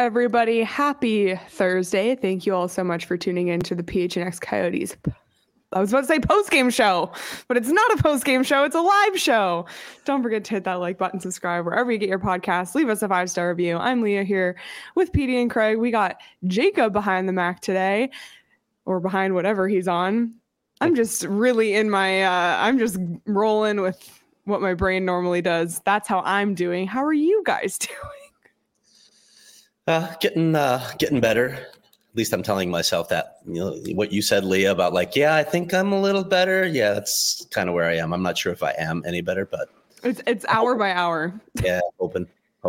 everybody? Happy Thursday. Thank you all so much for tuning in to the PHNX Coyotes. I was about to say post-game show, but it's not a post-game show. It's a live show. Don't forget to hit that like button, subscribe wherever you get your podcasts. Leave us a 5-star review. I'm Leah here with Petey and Craig. We got Jacob behind the Mac today, or behind whatever he's on. I'm just really in my, I'm just rolling with what my brain normally does. That's how I'm doing. How are you guys doing? Getting better. At least I'm telling myself that, what you said, Leah, about like, yeah, I think I'm a little better. Yeah, that's kind of where I am. I'm not sure if I am any better, but it's hour by hour. Yeah, hoping.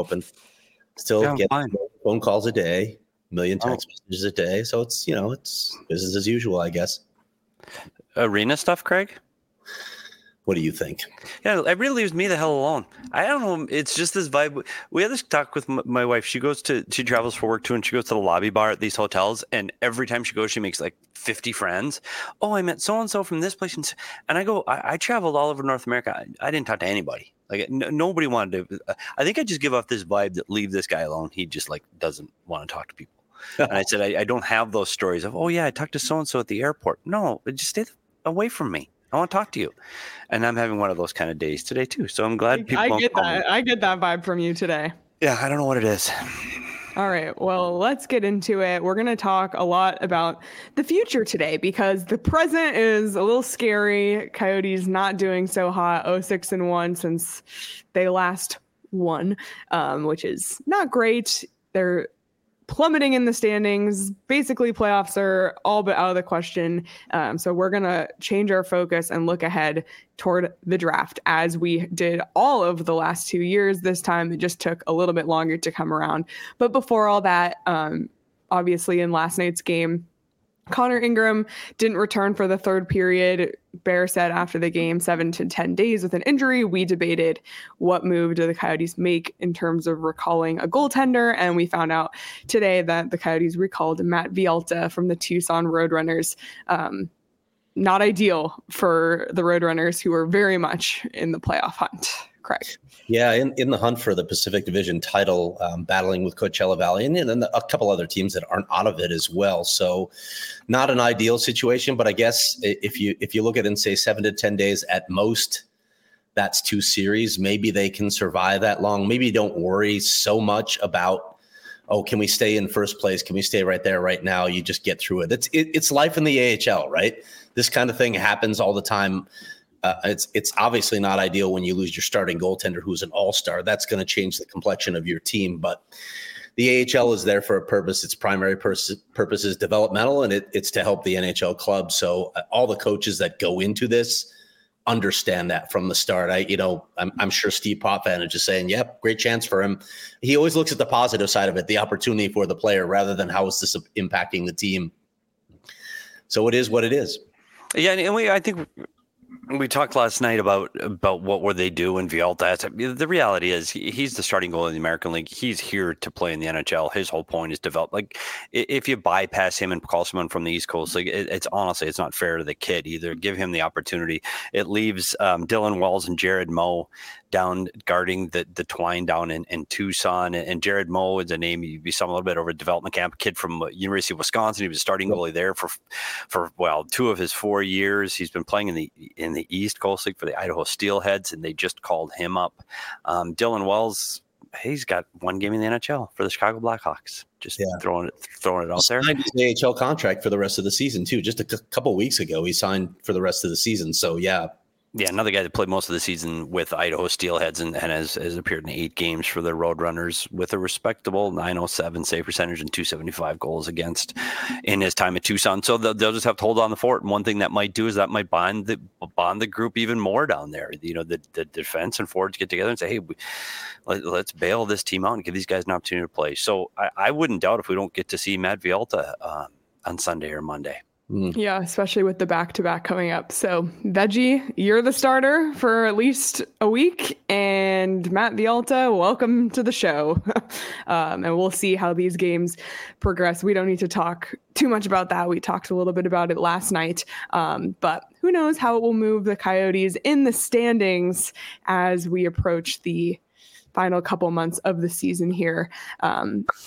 Still getting phone calls a day, a million text messages a day. So it's, it's business as usual, I guess. Arena stuff, Craig? What do you think? Yeah, it really leaves me the hell alone. I don't know. It's just this vibe. We had this talk with my wife. She travels for work too, and she goes to the lobby bar at these hotels. And every time she goes, she makes like 50 friends. Oh, I met so-and-so from this place. And I go, I traveled all over North America. I didn't talk to anybody. Like nobody wanted to. I think I just give off this vibe that leave this guy alone. He just like doesn't want to talk to people. And I said, I don't have those stories of, oh yeah, I talked to so-and-so at the airport. No, just stay away from me. I want to talk to you. And I'm having one of those kind of days today too. So I'm glad people I get that. I get that vibe from you today. Yeah, I don't know what it is. All right. Well, let's get into it. We're going to talk a lot about the future today because the present is a little scary. Coyotes not doing so hot, 0-6-1 since they last won, which is not great. They're plummeting in the standings. Basically, playoffs are all but out of the question. So we're going to change our focus and look ahead toward the draft as we did all of the last 2 years. This time, it just took a little bit longer to come around. But before all that, obviously in last night's game, Connor Ingram didn't return for the third period. Bear said after the game, 7 to 10 days with an injury. We debated what move do the Coyotes make in terms of recalling a goaltender, and we found out today that the Coyotes recalled Matt Villalta from the Tucson Roadrunners. Not ideal for the Roadrunners, who are very much in the playoff hunt. Craig. Yeah, in the hunt for the Pacific Division title, battling with Coachella Valley and then a couple other teams that aren't out of it as well. So not an ideal situation, but I guess if you look at it and say 7 to 10 days at most, that's 2 series. Maybe they can survive that long. Maybe don't worry so much about, can we stay in first place? Can we stay right there right now? You just get through it. It's life in the AHL, right? This kind of thing happens all the time. It's obviously not ideal when you lose your starting goaltender who's an all-star. That's going to change the complexion of your team. But the AHL is there for a purpose. Its primary purpose is developmental, and it's to help the NHL club. So all the coaches that go into this understand that from the start. I'm sure Steve Potvin is just saying, yep, great chance for him. He always looks at the positive side of it, the opportunity for the player, rather than how is this impacting the team. So it is what it is. Yeah, and I think we talked last night about what would they do in Villalta. The reality is he's the starting goalie in the American League. He's here to play in the NHL. His whole point is develop. Like if you bypass him and call someone from the East Coast, like it's honestly, it's not fair to the kid either. Give him the opportunity. It leaves Dylan Wells and Jared Moe down guarding the twine down in Tucson. And Jared Moe is a name you saw a little bit over at development camp, a kid from University of Wisconsin. He was a starting goalie there for 2 of his 4 years. He's been playing in the East Coast League for the Idaho Steelheads, and they just called him up. Dylan Wells, he's got 1 game in the NHL for the Chicago Blackhawks. Just throwing it out there. Signed his AHL contract for the rest of the season too. Just a couple weeks ago, he signed for the rest of the season. So yeah. Yeah, another guy that played most of the season with Idaho Steelheads and has appeared in 8 games for the Roadrunners with a respectable .907 save percentage and .275 goals against in his time at Tucson. So they'll just have to hold on the fort. And one thing that might do is that might bond the group even more down there. The defense and forwards get together and say, hey, let's bail this team out and give these guys an opportunity to play. So I wouldn't doubt if we don't get to see Matt Villalta on Sunday or Monday. Yeah, especially with the back-to-back coming up. So, Veggie, you're the starter for at least a week, and Matt Villalta, welcome to the show. And we'll see how these games progress. We don't need to talk too much about that. We talked a little bit about it last night, but who knows how it will move the Coyotes in the standings as we approach the final couple months of the season here.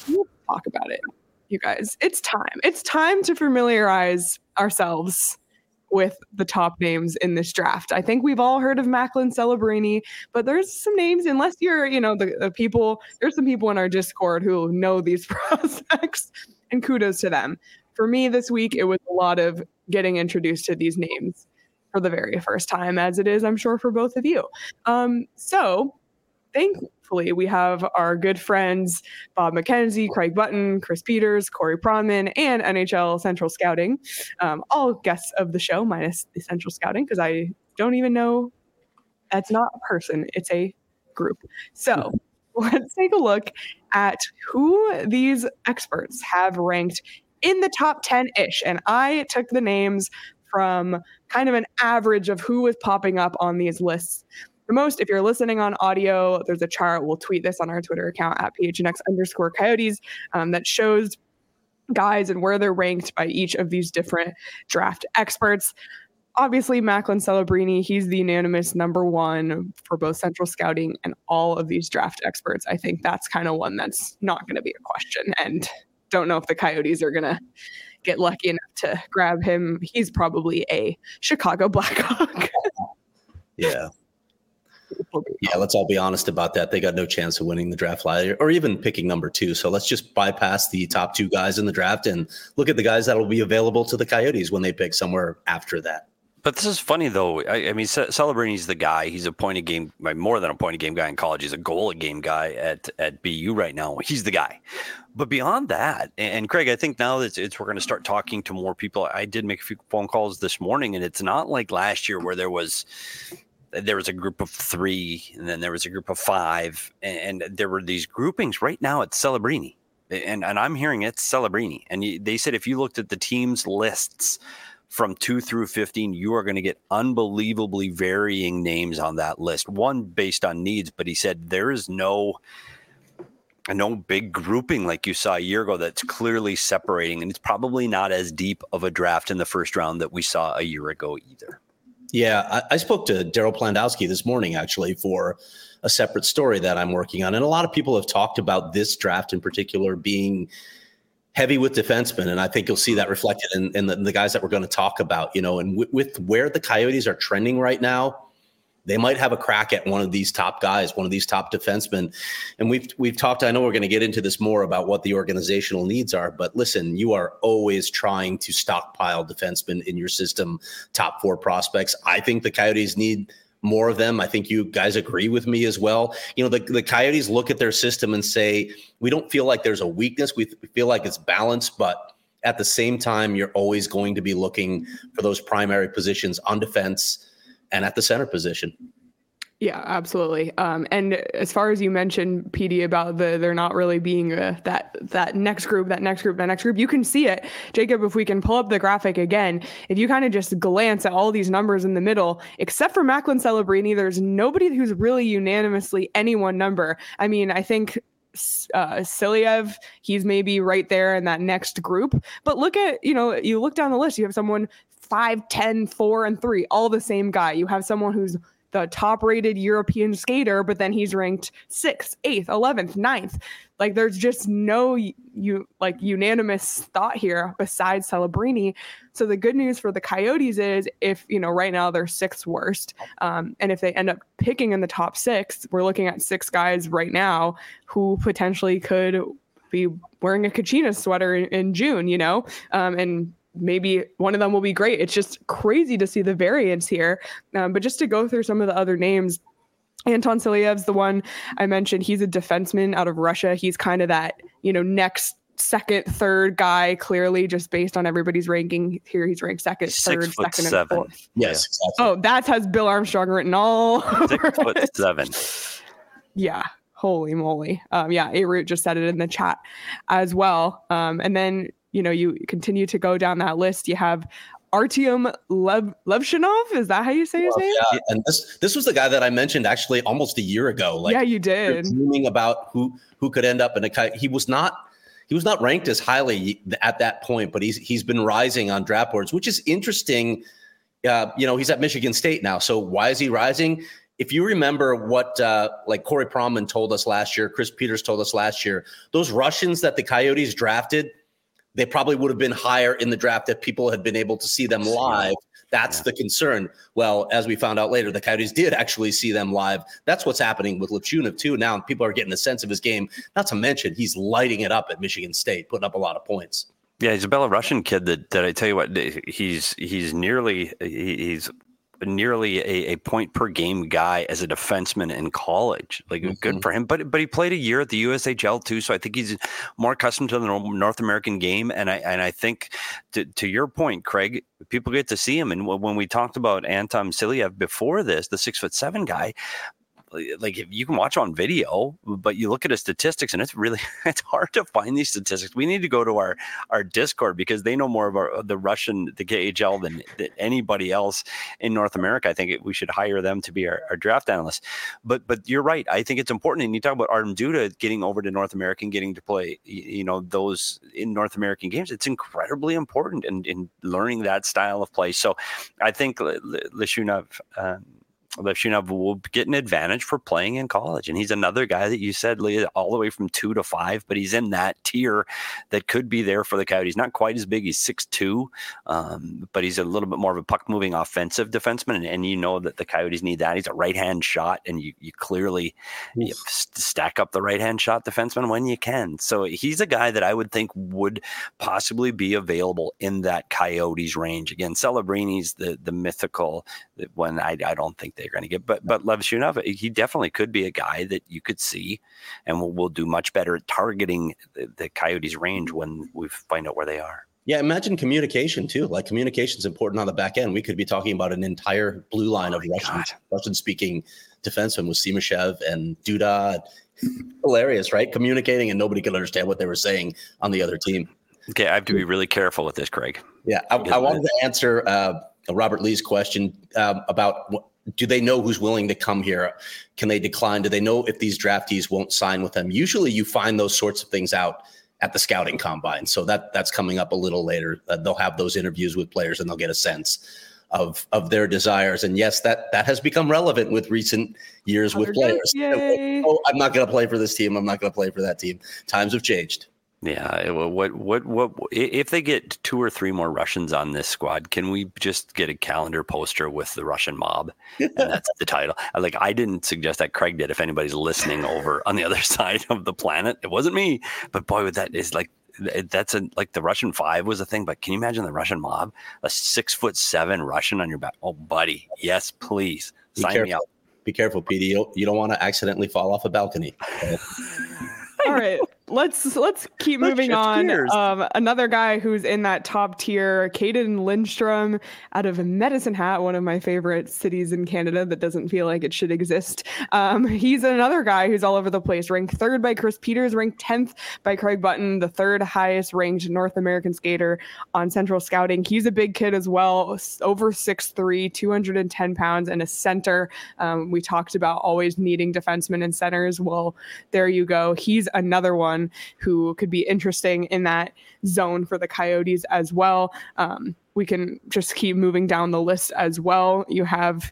talk about it, you guys. It's time. It's time to familiarize ourselves with the top names in this draft. I think we've all heard of Macklin Celebrini, but there's some names, unless you're, the people, there's some people in our Discord who know these prospects, and kudos to them. For me this week, it was a lot of getting introduced to these names for the very first time, as it is, I'm sure, for both of you. So thankfully, we have our good friends, Bob McKenzie, Craig Button, Chris Peters, Corey Pronman, and NHL Central Scouting, all guests of the show, minus the Central Scouting, because I don't even know, that's not a person, it's a group. So let's take a look at who these experts have ranked in the top 10-ish. And I took the names from kind of an average of who was popping up on these lists the most. If you're listening on audio, there's a chart. We'll tweet this on our Twitter account at PHNX_Coyotes that shows guys and where they're ranked by each of these different draft experts. Obviously, Macklin Celebrini, he's the unanimous number one for both Central Scouting and all of these draft experts. I think that's kind of one that's not going to be a question. And don't know if the Coyotes are going to get lucky enough to grab him. He's probably a Chicago Blackhawk. Yeah. Yeah, let's all be honest about that. They got no chance of winning the draft lottery or even picking number 2. So let's just bypass the top 2 guys in the draft and look at the guys that will be available to the Coyotes when they pick somewhere after that. But this is funny, though. I mean, Celebrini's the guy. He's a point-a-game, more than a point-a-game guy in college. He's a goal-a-game guy at BU right now. He's the guy. But beyond that, and Craig, I think now that we're going to start talking to more people. I did make a few phone calls this morning, and it's not like last year where there was a group of 3, and then there was a group of 5, and there were these groupings. Right now, it's Celebrini, and I'm hearing it's Celebrini. And they said if you looked at the team's lists from 2 through 15, you are going to get unbelievably varying names on that list. One based on needs, but he said there is no big grouping like you saw a year ago that's clearly separating, and it's probably not as deep of a draft in the first round that we saw a year ago either. Yeah, I spoke to Daryl Plandowski this morning, actually, for a separate story that I'm working on. And a lot of people have talked about this draft in particular being heavy with defensemen. And I think you'll see that reflected in the guys that we're going to talk about, and with where the Coyotes are trending right now, they might have a crack at one of these top guys, one of these top defensemen. And we've talked, I know we're going to get into this more about what the organizational needs are, but listen, you are always trying to stockpile defensemen in your system, top 4 prospects. I think the Coyotes need more of them. I think you guys agree with me as well. The Coyotes look at their system and say, we don't feel like there's a weakness. We feel like it's balanced, but at the same time, you're always going to be looking for those primary positions on defense and at the center position. Yeah, absolutely. And as far as you mentioned, PD, about they're not really being that next group, you can see it. Jacob, if we can pull up the graphic again, if you kind of just glance at all these numbers in the middle, except for Macklin Celebrini, there's nobody who's really unanimously any one number. I mean, I think Silyev, he's maybe right there in that next group. But look at, you look down the list, you have someone 5, 10, 4, and 3, all the same guy. You have someone who's the top-rated European skater, but then he's ranked 6th, 8th, 11th, 9th. Like, there's just no unanimous thought here besides Celebrini. So the good news for the Coyotes is if, right now they're 6th worst, and if they end up picking in the top 6, we're looking at 6 guys right now who potentially could be wearing a Kachina sweater in June, and maybe one of them will be great. It's just crazy to see the variance here. But just to go through some of the other names, Anton Silyev's the one I mentioned. He's a defenseman out of Russia. He's kind of that, next, second, third guy, clearly, just based on everybody's ranking here. He's ranked second, third, second, and 4th. Yes, exactly. Oh, that has Bill Armstrong written all over 6'7". Yeah. Holy moly. A-Root just said it in the chat as well. And then, you continue to go down that list. You have Artyom Levshinov. Is that how you say his name? Yeah, and this was the guy that I mentioned actually almost a year ago. Yeah, you did. Dreaming about who could end up in a. He was not ranked as highly at that point, but he's been rising on draft boards, which is interesting. He's at Michigan State now. So why is he rising? if you remember what like Corey Pronman told us last year, Chris Peters told us last year, those Russians that the Coyotes drafted, they probably would have been higher in the draft if people had been able to see them live. That's the concern. Well, as we found out later, the Coyotes did actually see them live. That's what's happening with Lipshunov too. Now people are getting a sense of his game. Not to mention he's lighting it up at Michigan State, putting up a lot of points. Yeah, he's a Belarusian kid that I tell you what, he's nearly a point per game guy as a defenseman in college. Like good for him, but he played a year at the USHL too, so I think he's more accustomed to the North American game. And I think to your point, Craig, people get to see him. And when we talked about Anton Silyev before this, the 6'7" guy, like if you can watch on video, but you look at his statistics and it's hard to find these statistics. We need to go to our Discord because they know more about the KHL than anybody else in North America. I think we should hire them to be our draft analysts. But you're right. I think it's important. And you talk about Artem Duda getting over to North America and getting to play, those in North American games. It's incredibly important in learning that style of play. So I think Lipshunov will get an advantage for playing in college. And he's another guy that you said all the way from 2 to 5, but he's in that tier that could be there for the Coyotes. Not quite as big. He's 6'2", but he's a little bit more of a puck-moving offensive defenseman. And you know that the Coyotes need that. He's a right-hand shot, and you clearly stack up the right-hand shot defenseman when you can. So he's a guy that I would think would possibly be available in that Coyotes range. Again, Celebrini's the mythical one. I don't think they're going to get, but Lipshunov, he definitely could be a guy that you could see and will do much better at targeting the Coyotes range when we find out where they are. Yeah, imagine communication too. Like communication is important on the back end. We could be talking about an entire blue line of Russian-speaking defensemen with Simashev and Duda. Hilarious, right? Communicating and nobody could understand what they were saying on the other team. Okay, I have to be really careful with this, Craig. Yeah, I wanted to answer Robert Lee's question about do they know who's willing to come here? Can they decline? Do they know if these draftees won't sign with them? Usually you find those sorts of things out at the scouting combine. So that's coming up a little later. They'll have those interviews with players and they'll get a sense of their desires. And yes, that has become relevant with recent years with players. Oh, I'm not going to play for this team. I'm not going to play for that team. Times have changed. Yeah. What if they get 2 or 3 more Russians on this squad? Can we just get a calendar poster with the Russian mob? And that's the title. I didn't suggest that. Craig did. If anybody's listening over on the other side of the planet, it wasn't me. But boy, that is like the Russian 5 was a thing. But can you imagine the Russian mob? A 6'7" Russian on your back? Oh, buddy, yes, please sign me up. Be careful, Petey. You don't want to accidentally fall off a balcony. All right, let's keep moving on. Another guy who's in that top tier, Caden Lindstrom out of Medicine Hat, one of my favorite cities in Canada that doesn't feel like it should exist. He's another guy who's all over the place, ranked 3rd by Chris Peters, ranked 10th by Craig Button, the 3rd highest ranked North American skater on Central Scouting. He's a big kid as well, over 6'3", 210 pounds, and a center. We talked about always needing defensemen and centers. Well, there you go. He's another one who could be interesting in that zone for the Coyotes as well. We can just keep moving down the list as well. You have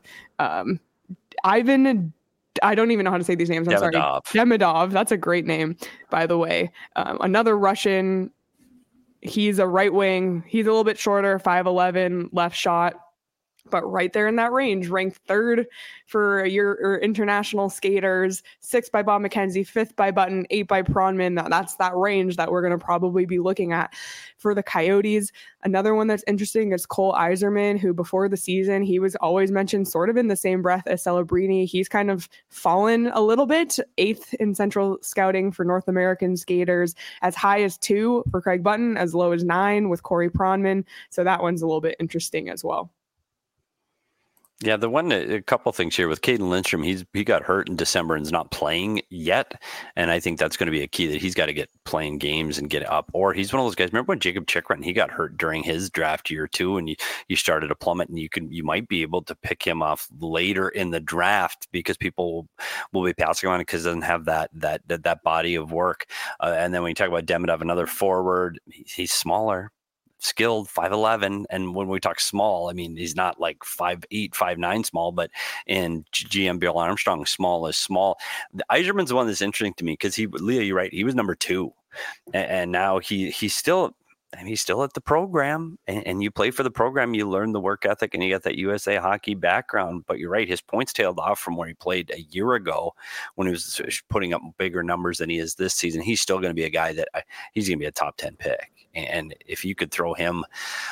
Ivan, I don't even know how to say these names. I'm sorry. Demidov. That's a great name, by the way. Another Russian. He's a right wing. He's a little bit shorter, 5'11", left shot. But right there in that range, ranked 3rd for your international skaters, 6th by Bob McKenzie, 5th by Button, 8th by Pronman. That's that range that we're going to probably be looking at for the Coyotes. Another one that's interesting is Cole Iserman, who before the season, he was always mentioned sort of in the same breath as Celebrini. He's kind of fallen a little bit, 8th in Central Scouting for North American skaters, as high as 2 for Craig Button, as low as 9 with Corey Pronman. So that one's a little bit interesting as well. Yeah, a couple things here with Caden Lindstrom. He got hurt in December and is not playing yet, and I think that's going to be a key that he's got to get playing games and get up. Or he's one of those guys. Remember when Jacob Chikrin, he got hurt during his draft year too, and you started to plummet, and you might be able to pick him off later in the draft because people will be passing on it because it doesn't have that body of work. And then when you talk about Demidov, another forward, he's smaller. skilled, 5'11", and when we talk small, I mean he's not like 5'8", 5'9" small, but in GM Bill Armstrong, small is small. The Yzerman's the one that's interesting to me because Leah, you're right, he was number 2, and now he's still. And he's still at the program, and you play for the program, you learn the work ethic, and you get that USA hockey background. But you're right, his points tailed off from where he played a year ago when he was putting up bigger numbers than he is this season. He's still going to be a guy that he's going to be a top 10 pick. And if you could throw him,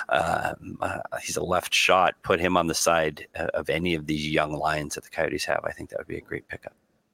he's a left shot, put him on the side of any of these young Lions that the Coyotes have, I think that would be a great pickup.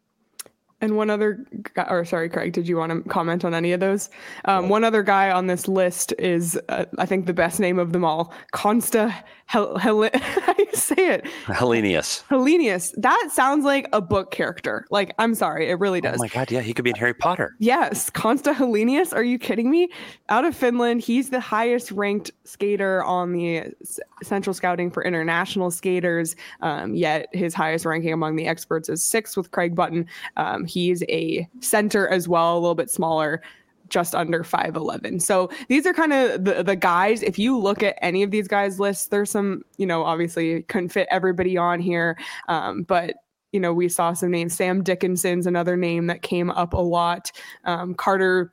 And one other guy, or sorry, Craig, did you want to comment on any of those? One other guy on this list is, I think, the best name of them all, Konsta how do you say it? Helenius. Helenius. That sounds like a book character. Like, I'm sorry, it really does. Oh my God, yeah, he could be in Harry Potter. Yes, Konsta Helenius. Are you kidding me? Out of Finland, he's the highest ranked skater on the Central Scouting for International Skaters. Yet his highest ranking among the experts is 6th with Craig Button. He's a center as well, a little bit smaller, just under 5'11". So these are kind of the guys. If you look at any of these guys' lists, there's some, obviously couldn't fit everybody on here. But, we saw some names. Sam Dickinson's another name that came up a lot. Carter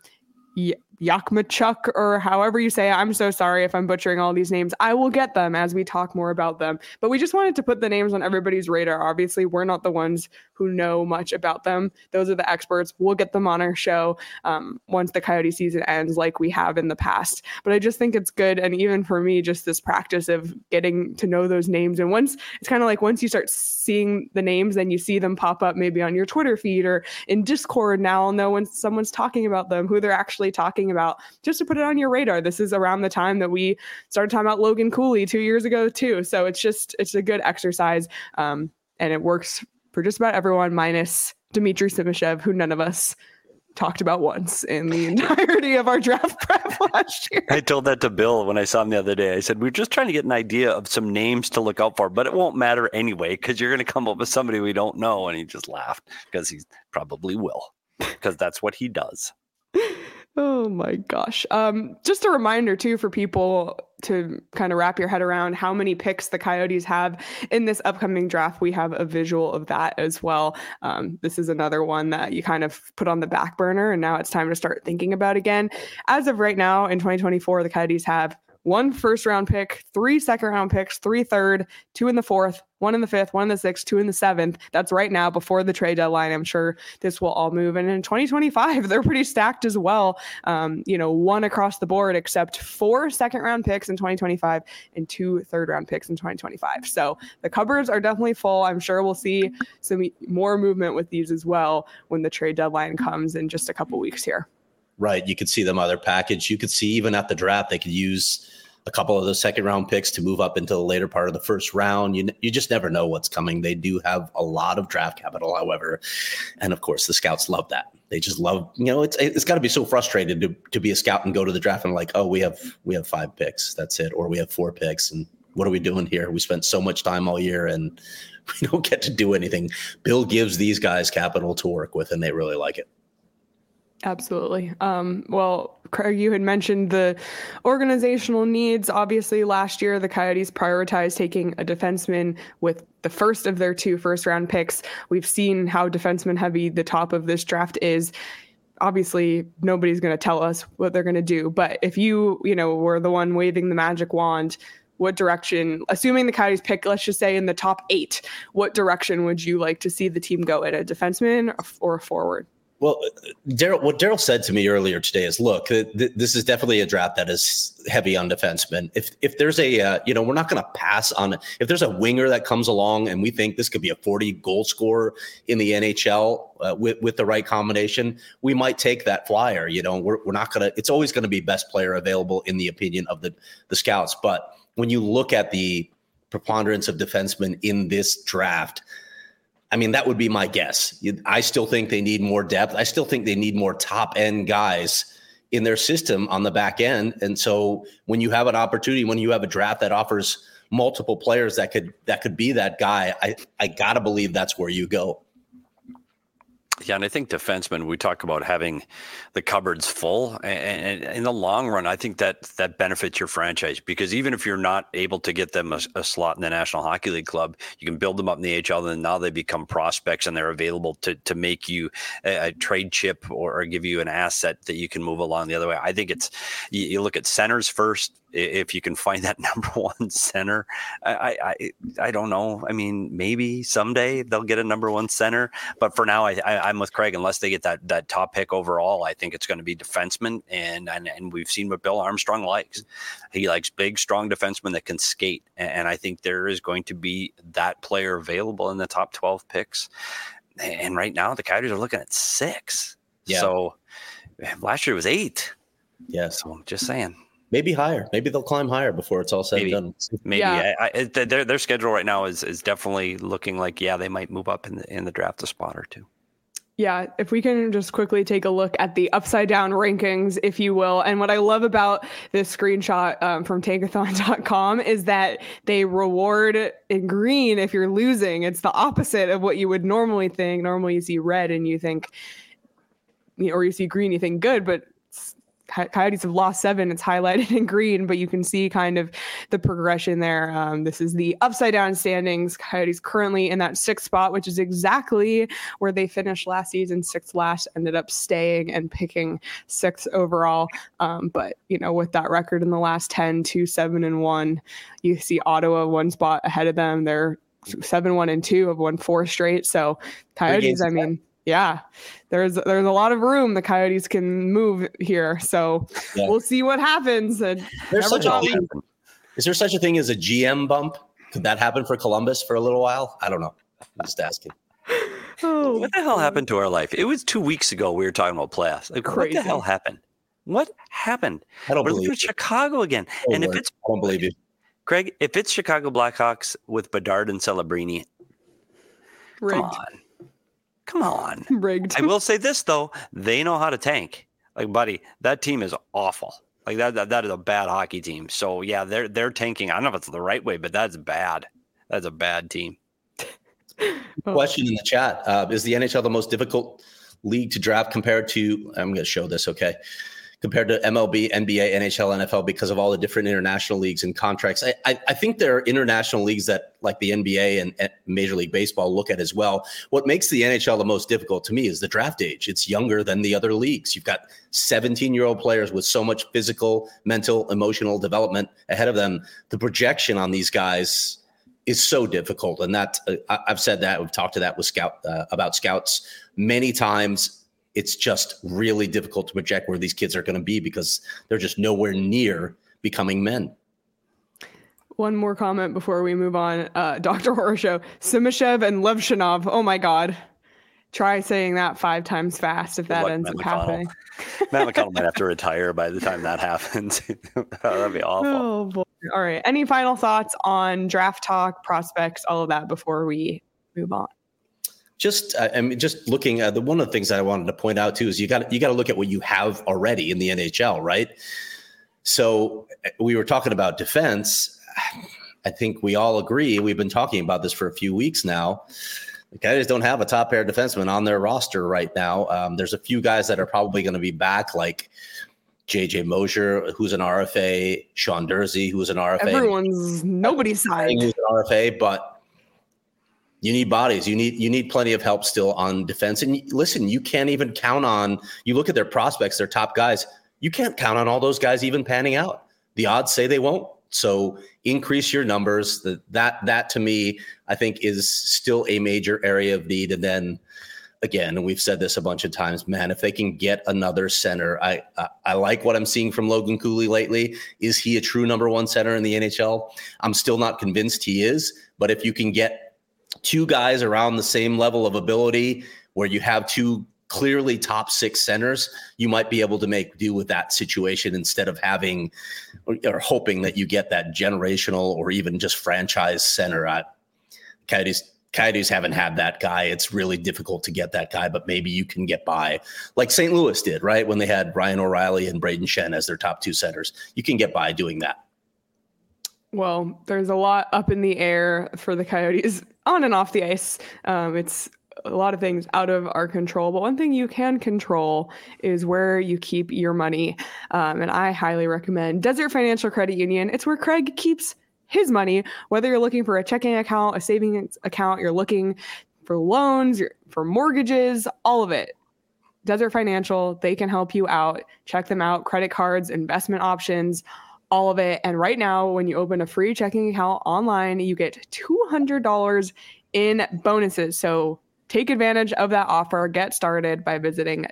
Yakmachuk, or however you say it. I'm so sorry if I'm butchering all these names. I will get them as we talk more about them. But we just wanted to put the names on everybody's radar. Obviously, we're not the ones who know much about them. Those are the experts. We'll get them on our show once the Coyote season ends, like we have in the past. But I just think it's good. And even for me, just this practice of getting to know those names. And once you start seeing the names, then you see them pop up maybe on your Twitter feed or in Discord. Now I'll know when someone's talking about them, who they're actually talking about, just to put it on your radar. This is around the time that we started talking about Logan Cooley 2 years ago too. So it's a good exercise. And it works for just about everyone minus Dmitry Simashev, who none of us talked about once in the entirety of our draft prep last year. I told that to Bill when I saw him the other day. I said, we're just trying to get an idea of some names to look out for, but it won't matter anyway, because you're going to come up with somebody we don't know. And he just laughed because he probably will, because that's what he does. Oh my gosh. Just a reminder too for people to kind of wrap your head around how many picks the Coyotes have in this upcoming draft. We have a visual of that as well. This is another one that you kind of put on the back burner, and now it's time to start thinking about again. As of right now in 2024, the Coyotes have 1 first-round pick, 3 second-round picks, 3 third, 2 in the 4th, 1 in the 5th, 1 in the 6th, 2 in the 7th. That's right now before the trade deadline. I'm sure this will all move. And in 2025, they're pretty stacked as well. 1 across the board, except 4 second-round picks in 2025 and 2 third-round picks in 2025. So the cupboards are definitely full. I'm sure we'll see some more movement with these as well when the trade deadline comes in just a couple weeks here. Right. You could see them other package. You could see even at the draft, they could use a couple of the second round picks to move up into the later part of the first round. You just never know what's coming. They do have a lot of draft capital, however. And of course, the scouts love that. They just love, it's got to be so frustrating to be a scout and go to the draft and like, oh, we have 5 picks. That's it. Or we have 4 picks. And what are we doing here? We spent so much time all year and we don't get to do anything. Bill gives these guys capital to work with, and they really like it. Absolutely. Well, Craig, you had mentioned the organizational needs. Obviously, last year, the Coyotes prioritized taking a defenseman with the first of their 2 first-round picks. We've seen how defenseman heavy the top of this draft is. Obviously, nobody's going to tell us what they're going to do. But if you were the one waving the magic wand, what direction, assuming the Coyotes pick, let's just say in the top 8, what direction would you like to see the team go in, a defenseman or a forward? Well, what Daryl said to me earlier today is, look, this is definitely a draft that is heavy on defensemen. If there's a, we're not going to pass on, if there's a winger that comes along and we think this could be a 40 goal scorer in the NHL with the right combination, we might take that flyer. We're not going to, it's always going to be best player available in the opinion of the scouts. But when you look at the preponderance of defensemen in this draft, I mean, that would be my guess. I still think they need more depth. I still think they need more top end guys in their system on the back end. And so when you have an opportunity, when you have a draft that offers multiple players that could be that guy, I got to believe that's where you go. Yeah, and I think defensemen, we talk about having the cupboards full, and in the long run, I think that benefits your franchise, because even if you're not able to get them a slot in the National Hockey League club, you can build them up in the AHL, and now they become prospects, and they're available to make you a trade chip or give you an asset that you can move along the other way. I think it's, you look at centers first. If you can find that number one center, I don't know. I mean, maybe someday they'll get a number one center, but for now, I'm with Craig. Unless they get that top pick overall, I think it's going to be defensemen, and we've seen what Bill Armstrong likes. He likes big, strong defensemen that can skate, and I think there is going to be that player available in the top 12 picks. And right now, the Coyotes are looking at 6. Yeah. So last year was 8. Yeah. So I'm just saying. Maybe higher. Maybe they'll climb higher before it's all said and done. Maybe. Yeah. Their schedule right now is definitely looking like, they might move up in the draft a spot or two. Yeah, if we can just quickly take a look at the upside down rankings, if you will. And what I love about this screenshot from tankathon.com is that they reward in green if you're losing. It's the opposite of what you would normally think. Normally you see red and you think, or you see green, you think good, but Coyotes have lost 7. It's highlighted in green, but you can see kind of the progression there. This is the upside down standings. Coyotes currently in that 6th spot, which is exactly where they finished last season. 6th last, ended up staying and picking 6th overall. But with that record in the last 10, 2-7-1, you see Ottawa 1 spot ahead of them. They're 7-1-2, have won 4 straight. So Coyotes, I mean, yeah, there's a lot of room the Coyotes can move here. So we'll see what happens. And is there such a thing as a GM bump? Could that happen for Columbus for a little while? I don't know. I'm just asking. What the hell happened to our life? It was 2 weeks ago we were talking about playoffs. Like, what the hell happened? What happened? I don't believe it. Chicago again. And if it's, I don't believe you, Craig. If it's Chicago Blackhawks with Bedard and Celebrini, Come on. Rigged. I will say this, though. They know how to tank. Like, buddy, that team is awful. Like, that is a bad hockey team. So, yeah, they're tanking. I don't know if it's the right way, but that's bad. That's a bad team. Question in the chat. Is the NHL the most difficult league to draft compared to – I'm going to show this, okay? Compared to MLB, NBA, NHL, NFL, because of all the different international leagues and contracts. I think there are international leagues that, like the NBA and Major League Baseball, look at as well. What makes the NHL the most difficult to me is the draft age. It's younger than the other leagues. You've got 17-year-old players with so much physical, mental, emotional development ahead of them. The projection on these guys is so difficult. And that I've said that. We've talked to that with about scouts many times. It's just really difficult to project where these kids are going to be because they're just nowhere near becoming men. One more comment before we move on. Dr. Horoshow, Simashev and Levshinov. Oh my God. Try saying that 5 times fast if that ends up happening. Matt McConnell might have to retire by the time that happens. That'd be awful. Oh boy. All right. Any final thoughts on draft talk, prospects, all of that before we move on? Just looking at one of the things that I wanted to point out too is you got to look at what you have already in the NHL, right? So we were talking about defense. I think we all agree. We've been talking about this for a few weeks now. The Coyotes don't have a top pair defenseman on their roster right now. There's a few guys that are probably going to be back, like JJ Mosier, who's an RFA, Sean Durzi, who's an RFA. Nobody's signed. Who's an RFA, but you need bodies. You need plenty of help still on defense. And listen, you can't even count on, you look at their prospects, their top guys, you can't count on all those guys even panning out. The odds say they won't. So increase your numbers. That to me, I think is still a major area of need. And then again, and we've said this a bunch of times, man, if they can get another center, I like what I'm seeing from Logan Cooley lately. Is he a true number 1 center in the NHL? I'm still not convinced he is, but if you can get 2 guys around the same level of ability where you have 2 clearly top 6 centers, you might be able to make do with that situation instead of having or hoping that you get that generational or even just franchise center. Coyotes haven't had that guy. It's really difficult to get that guy, but maybe you can get by like St. Louis did, right? When they had Ryan O'Reilly and Braden Shen as their top 2 centers, you can get by doing that. Well, there's a lot up in the air for the Coyotes on and off the ice. It's a lot of things out of our control, but one thing you can control is where you keep your money. And I highly recommend Desert Financial Credit Union. It's where Craig keeps his money, whether you're looking for a checking account, a savings account, you're looking for loans, for mortgages, all of it. Desert Financial, they can help you out. Check them out. Credit cards, investment options, all of it. And right now, when you open a free checking account online, you get $200 in bonuses. So take advantage of that offer. Get started by visiting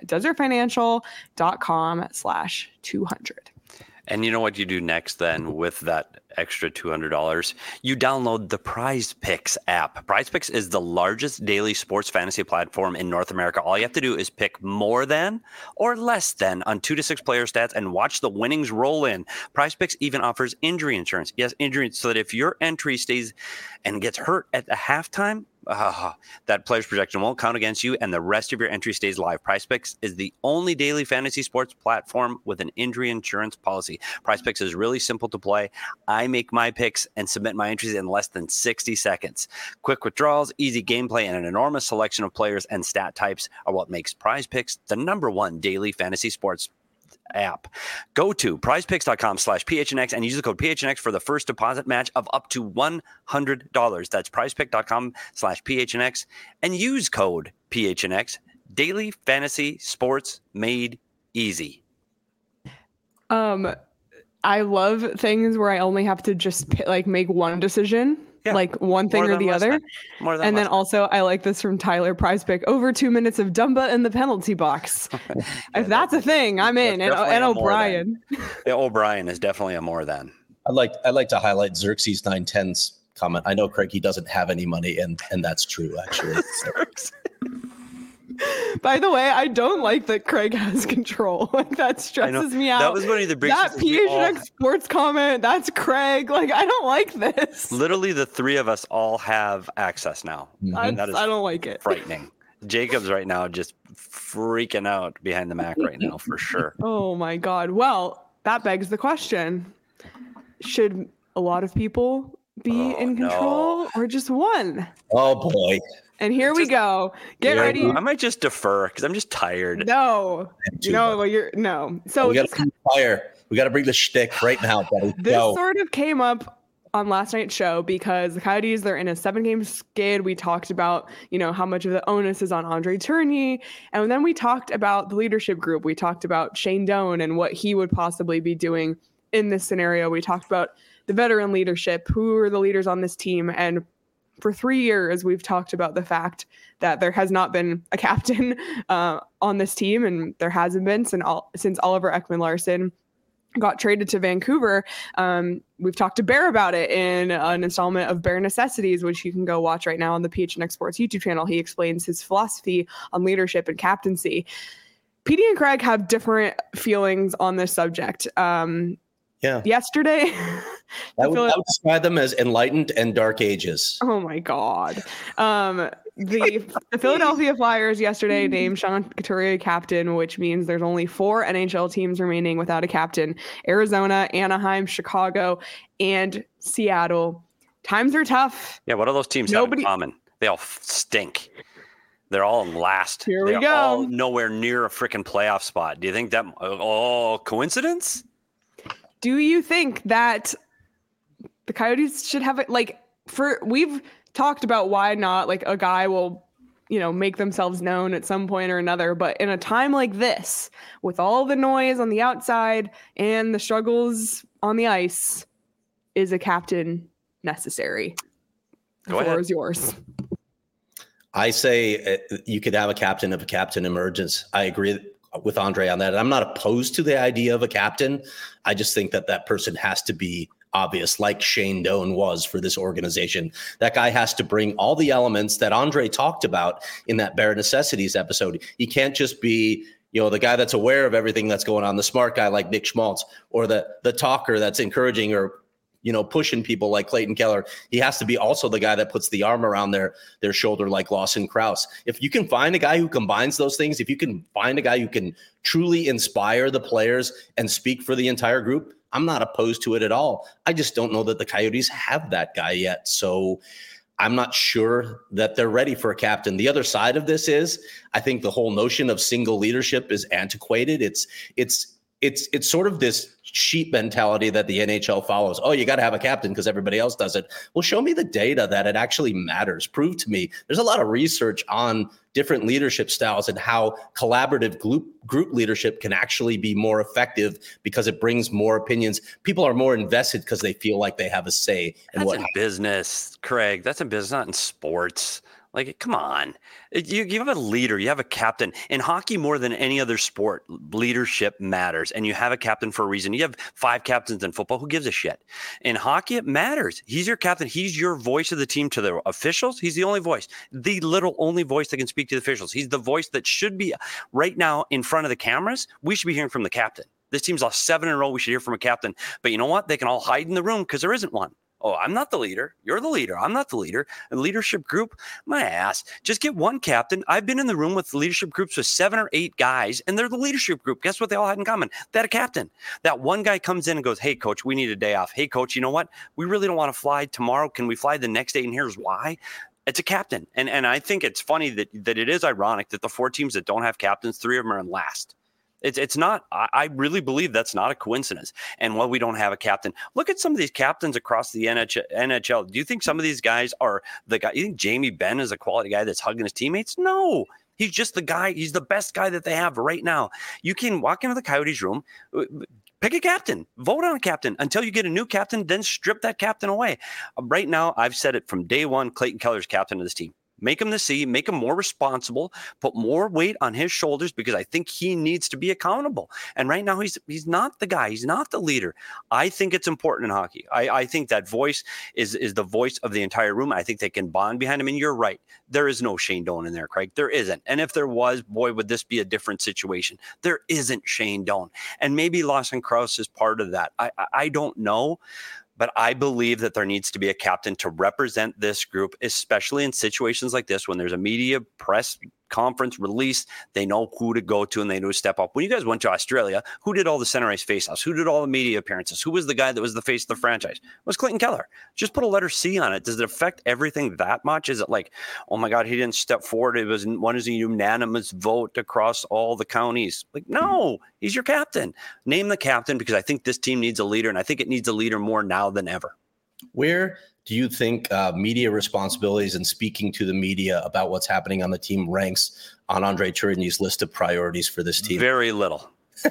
desertfinancial.com/200. And you know what you do next then with that extra $200? You download the Prize Picks app. Prize Picks is the largest daily sports fantasy platform in North America. All you have to do is pick more than or less than on 2 to 6 player stats and watch the winnings roll in. Prize Picks even offers injury insurance. Yes, injury, so that if your entry stays and gets hurt at the halftime, that player's projection won't count against you, and the rest of your entry stays live. PrizePicks is the only daily fantasy sports platform with an injury insurance policy. PrizePicks is really simple to play. I make my picks and submit my entries in less than 60 seconds. Quick withdrawals, easy gameplay, and an enormous selection of players and stat types are what makes PrizePicks the #1 daily fantasy sports app. Go to prizepicks.com/PHNX and use the code PHNX for the first deposit match of up to $100. That's prizepick.com/PHNX and use code PHNX. Daily fantasy sports made easy. I love things where I only have to just make one decision. Yeah. Like one thing or the other. And then also I like this from Tyler PrizePick, over 2 minutes of Dumba in the penalty box. If that's a thing, I'm in. And O'Brien. Yeah, O'Brien is definitely a more than. I'd like to highlight Xerxes 910's comment. I know, Craig, he doesn't have any money, and that's true, actually. By the way, I don't like that Craig has control. Like, that stresses me out. That was one of the that PHNX Sports comment. That's Craig. Like, I don't like this. Literally, the three of us all have access now. I don't like it. Frightening. Jacob's right now just freaking out behind the Mac right now for sure. Oh my God. Well, that begs the question: should a lot of people be in control or just one? Oh boy. And here we go. Get ready. I might just defer because I'm just tired. No. So we got to fire. We got to bring the shtick right now, buddy. This sort of came up on last night's show because the Coyotes, they're in a 7-game skid. We talked about, how much of the onus is on Andre Tourigny. And then we talked about the leadership group. We talked about Shane Doan and what he would possibly be doing in this scenario. We talked about the veteran leadership, who are the leaders on this team. And for 3 years, we've talked about the fact that there has not been a captain on this team, and there hasn't been since Oliver Ekman-Larsson got traded to Vancouver. We've talked to Bear about it in an installment of Bear Necessities, which you can go watch right now on the PHNX Sports YouTube channel. He explains his philosophy on leadership and captaincy. PD and Craig have different feelings on this subject. Yesterday, I would describe them as enlightened and dark ages. Oh my God. The Philadelphia Flyers yesterday named Sean Couturier captain, which means there's only 4 NHL teams remaining without a captain: Arizona, Anaheim, Chicago, and Seattle. Times are tough. Yeah, what do those teams have in common? They all stink. They're all last. Here we go. They're all nowhere near a freaking playoff spot. Do you think that? Coincidence? Do you think that the Coyotes should have it? We've talked about why not, a guy will, make themselves known at some point or another. But in a time like this, with all the noise on the outside and the struggles on the ice, is a captain necessary? The floor is yours. I say you could have a captain if a captain emerges. I agree with Andre on that. I'm not opposed to the idea of a captain. I just think that person has to be obvious, like Shane Doan was for this organization. That guy has to bring all the elements that Andre talked about in that Bare Necessities episode. He can't just be, the guy that's aware of everything that's going on, the smart guy like Nick Schmaltz, or the talker that's encouraging or pushing people like Clayton Keller. He has to be also the guy that puts the arm around their shoulder like Lawson Krause. If you can find a guy who combines those things, if you can find a guy who can truly inspire the players and speak for the entire group, I'm not opposed to it at all. I just don't know that the Coyotes have that guy yet. So I'm not sure that they're ready for a captain. The other side of this is, I think the whole notion of single leadership is antiquated. It's sort of this sheep mentality that the NHL follows. Oh, you got to have a captain because everybody else does it. Well, show me the data that it actually matters. Prove to me. There's a lot of research on different leadership styles and how collaborative group leadership can actually be more effective because it brings more opinions. People are more invested because they feel like they have a say in That's in business, Craig. That's in business, not in sports. Like, come on. You have a leader. You have a captain. In hockey, more than any other sport, leadership matters. And you have a captain for a reason. You have 5 captains in football. Who gives a shit? In hockey, it matters. He's your captain. He's your voice of the team to the officials. He's the only voice. The little only voice that can speak to the officials. He's the voice that should be right now in front of the cameras. We should be hearing from the captain. This team's lost 7 in a row. We should hear from a captain. But you know what? They can all hide in the room because there isn't one. Oh, I'm not the leader. You're the leader. I'm not the leader. A leadership group, my ass. Just get one captain. I've been in the room with leadership groups with 7 or 8 guys, and they're the leadership group. Guess what they all had in common? They had a captain. That one guy comes in and goes, hey, coach, we need a day off. Hey, coach, you know what? We really don't want to fly tomorrow. Can we fly the next day? And here's why. It's a captain. And I think it's funny that it is ironic that the 4 teams that don't have captains, 3 of them are in last. It's not, I really believe that's not a coincidence. And while we don't have a captain, look at some of these captains across the NHL. Do you think some of these guys are the guy? You think Jamie Benn is a quality guy that's hugging his teammates? No, he's just the guy. He's the best guy that they have right now. You can walk into the Coyotes room, pick a captain, vote on a captain until you get a new captain, then strip that captain away. Right now, I've said it from day one, Clayton Keller's captain of this team. Make him the C, make him more responsible, put more weight on his shoulders because I think he needs to be accountable. And right now, he's not the guy. He's not the leader. I think it's important in hockey. I think that voice is the voice of the entire room. I think they can bond behind him. And you're right. There is no Shane Doan in there, Craig. There isn't. And if there was, boy, would this be a different situation. There isn't Shane Doan. And maybe Lawson Crouse is part of that. I don't know. But I believe that there needs to be a captain to represent this group, especially in situations like this when there's a media press conference release. They know who to go to and they know to step up. When you guys went to Australia, who did all the center ice faceoffs? Who did all the media appearances? Who was the guy that was the face of the franchise? It was Clayton Keller. Just put a letter C on it. Does it affect everything that much? Is it like, oh my God, he didn't step forward. It was a unanimous vote across all the counties. Like, no, he's your captain. Name the captain because I think this team needs a leader, and I think it needs a leader more now than ever. Where do you think media responsibilities and speaking to the media about what's happening on the team ranks on Andre Tourigny's list of priorities for this team? Very little.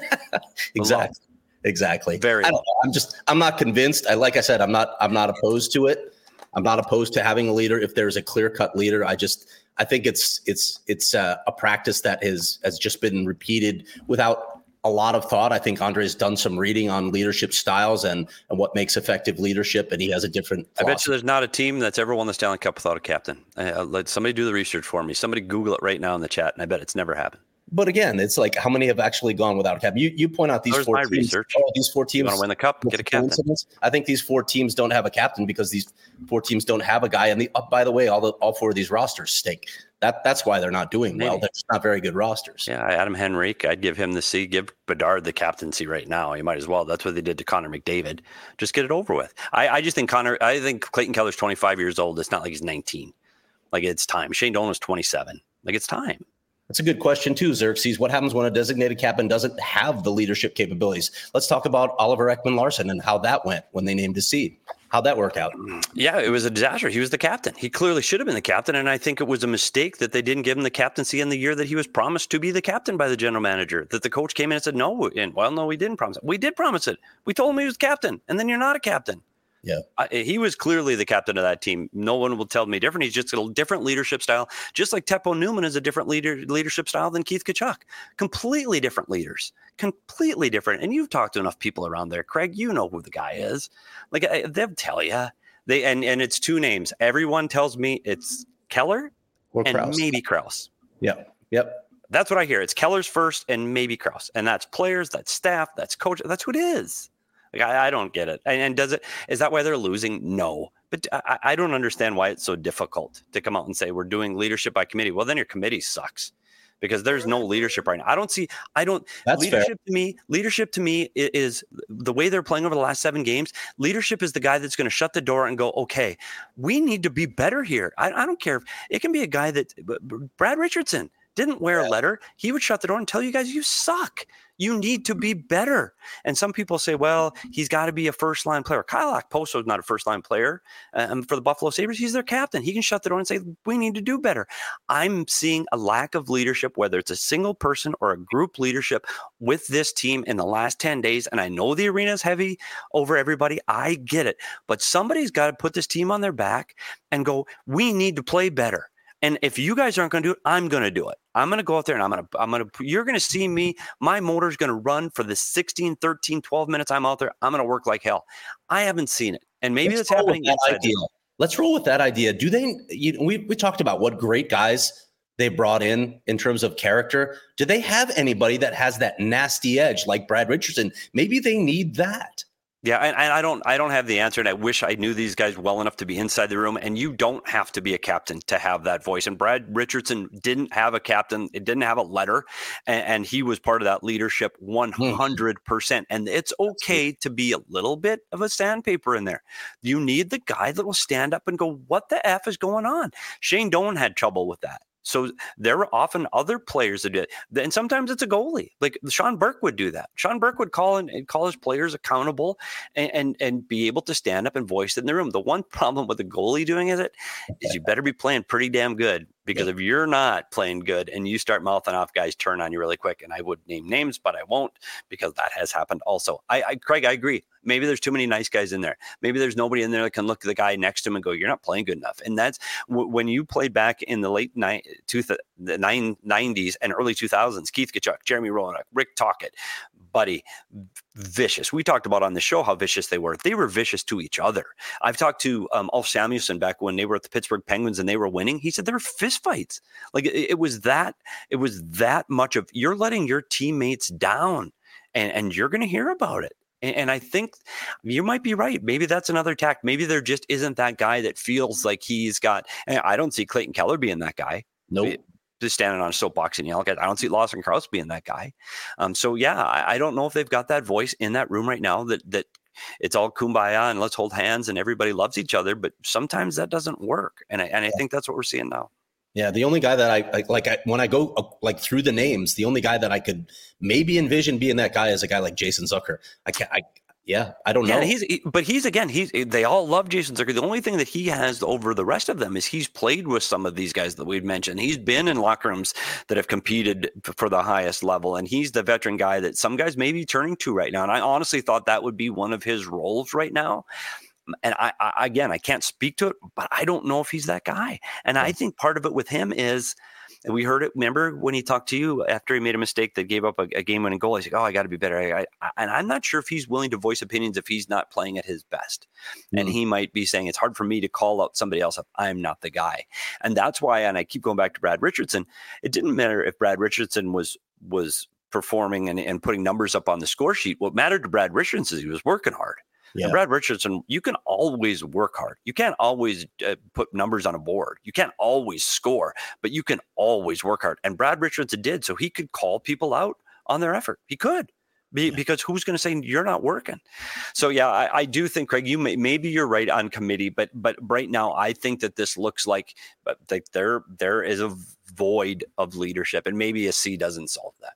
Exactly. Very little. I'm not convinced. Like I said, I'm not opposed to it. I'm not opposed to having a leader if there's a clear-cut leader. I think it's a practice that has just been repeated without a lot of thought. I think Andre's done some reading on leadership styles and what makes effective leadership, and he has a different philosophy. I bet you there's not a team that's ever won the Stanley Cup without a captain. Let somebody do the research for me. Somebody Google it right now in the chat, and I bet it's never happened. But again, it's like how many have actually gone without a captain? You point out these four teams. Research. Oh, these 4 teams. You want to win the cup? Get a captain. I think these 4 teams don't have a captain because these 4 teams don't have a guy. And by the way, all 4 of these rosters stink. That's why they're not doing well. They're just not very good rosters. Yeah, Adam Henrique, I'd give him the C. Give Bedard the captaincy right now. You might as well. That's what they did to Connor McDavid. Just get it over with. I just think I think Clayton Keller's 25 years old. It's not like he's 19. Like, it's time. Shane Doan is 27. Like, it's time. That's a good question too, Xerxes. What happens when a designated captain doesn't have the leadership capabilities? Let's talk about Oliver Ekman-Larsson and how that went when they named a C. How'd that work out? Yeah, it was a disaster. He was the captain. He clearly should have been the captain, and I think it was a mistake that they didn't give him the captaincy in the year that he was promised to be the captain by the general manager, that the coach came in and said, no, we didn't promise it. We did promise it. We told him he was captain, and then you're not a captain. Yeah, he was clearly the captain of that team. No one will tell me different. He's just a different leadership style, just like Teppo Newman is a different leadership style than Keith Tkachuk. Completely different leaders, completely different. And you've talked to enough people around there, Craig. You know who the guy is. Like, they'll tell you. And it's 2 names. Everyone tells me it's Keller or and Krause. Maybe Krause. Yep. That's what I hear. It's Keller's first and maybe Krause, and that's players, that's staff, that's coach. That's who it is. Like, I don't get it. And is that why they're losing? No. But I don't understand why it's so difficult to come out and say we're doing leadership by committee. Well, then your committee sucks because there's no leadership right now. That's leadership fair. Leadership to me is the way they're playing over the last 7 games. Leadership is the guy that's going to shut the door and go, okay, we need to be better here. I don't care. It can be a guy that Brad Richardson didn't wear a letter. He would shut the door and tell you guys, you suck. You need to be better. And some people say, well, he's got to be a first-line player. Kyle Okposo is not a first-line player. For the Buffalo Sabres, he's their captain. He can shut the door and say, we need to do better. I'm seeing a lack of leadership, whether it's a single person or a group leadership with this team in the last 10 days. And I know the arena is heavy over everybody. I get it. But somebody's got to put this team on their back and go, we need to play better. And if you guys aren't going to do it, I'm going to do it. I'm going to go out there and you're going to see me. My motor's going to run for the 16, 13, 12 minutes I'm out there. I'm going to work like hell. I haven't seen it. And maybe that's happening. Let's roll with that idea. Do they, we talked about what great guys they brought in terms of character. Do they have anybody that has that nasty edge like Brad Richardson? Maybe they need that. Yeah, and I don't have the answer, and I wish I knew these guys well enough to be inside the room. And you don't have to be a captain to have that voice. And Brad Richardson didn't have a captain; it didn't have a letter, and he was part of that leadership 100%. And it's okay to be a little bit of a sandpaper in there. You need the guy that will stand up and go, "What the f is going on?" Shane Doan had trouble with that. So there are often other players that do it. And sometimes it's a goalie. Like Sean Burke would do that. Sean Burke would call his players accountable and be able to stand up and voice it in the room. The one problem with the goalie doing is you better be playing pretty damn good. Because if you're not playing good and you start mouthing off, guys turn on you really quick. And I would name names, but I won't, because that has happened also. Craig, I agree. Maybe there's too many nice guys in there. Maybe there's nobody in there that can look at the guy next to him and go, you're not playing good enough. And that's when you played back in the late 90s and early 2000s, Keith Tkachuk, Jeremy Roenick, Rick Tocchet, Buddy, vicious. We talked about on the show how vicious they were. They were vicious to each other. I've talked to Ulf Samuelsson back when they were at the Pittsburgh Penguins and they were winning. He said there were fist fights. Like it was that much of, you're letting your teammates down and you're going to hear about it. And I think you might be right. Maybe that's another tact. Maybe there just isn't that guy that feels like he's got, and I don't see Clayton Keller being that guy. Nope. Just standing on a soapbox and yelling. I don't see Lawson Crouse being that guy. So yeah, I don't know if they've got that voice in that room right now that it's all kumbaya and let's hold hands and everybody loves each other. But sometimes that doesn't work. And I think that's what we're seeing now. Yeah, the only guy that I when I go through the names, the only guy that I could maybe envision being that guy is a guy like Jason Zucker. I don't know. They all love Jason Zucker. The only thing that he has over the rest of them is he's played with some of these guys that we've mentioned. He's been in locker rooms that have competed for the highest level, and he's the veteran guy that some guys may be turning to right now. And I honestly thought that would be one of his roles right now. And I can't speak to it, but I don't know if he's that guy. And I think part of it with him is, and we heard it, remember when he talked to you after he made a mistake that gave up a game-winning goal, he's like, I got to be better. And I'm not sure if he's willing to voice opinions if he's not playing at his best. And he might be saying, it's hard for me to call out somebody else if I'm not the guy. And that's why, and I keep going back to Brad Richardson, it didn't matter if Brad Richardson was performing and putting numbers up on the score sheet. What mattered to Brad Richardson is he was working hard. Yeah. And Brad Richardson, you can always work hard. You can't always put numbers on a board. You can't always score, but you can always work hard. And Brad Richardson did, so he could call people out on their effort. He could, because who's going to say you're not working? So yeah, I do think, Craig, maybe you're right on committee, but right now I think that this looks like there is a void of leadership, and maybe a C doesn't solve that.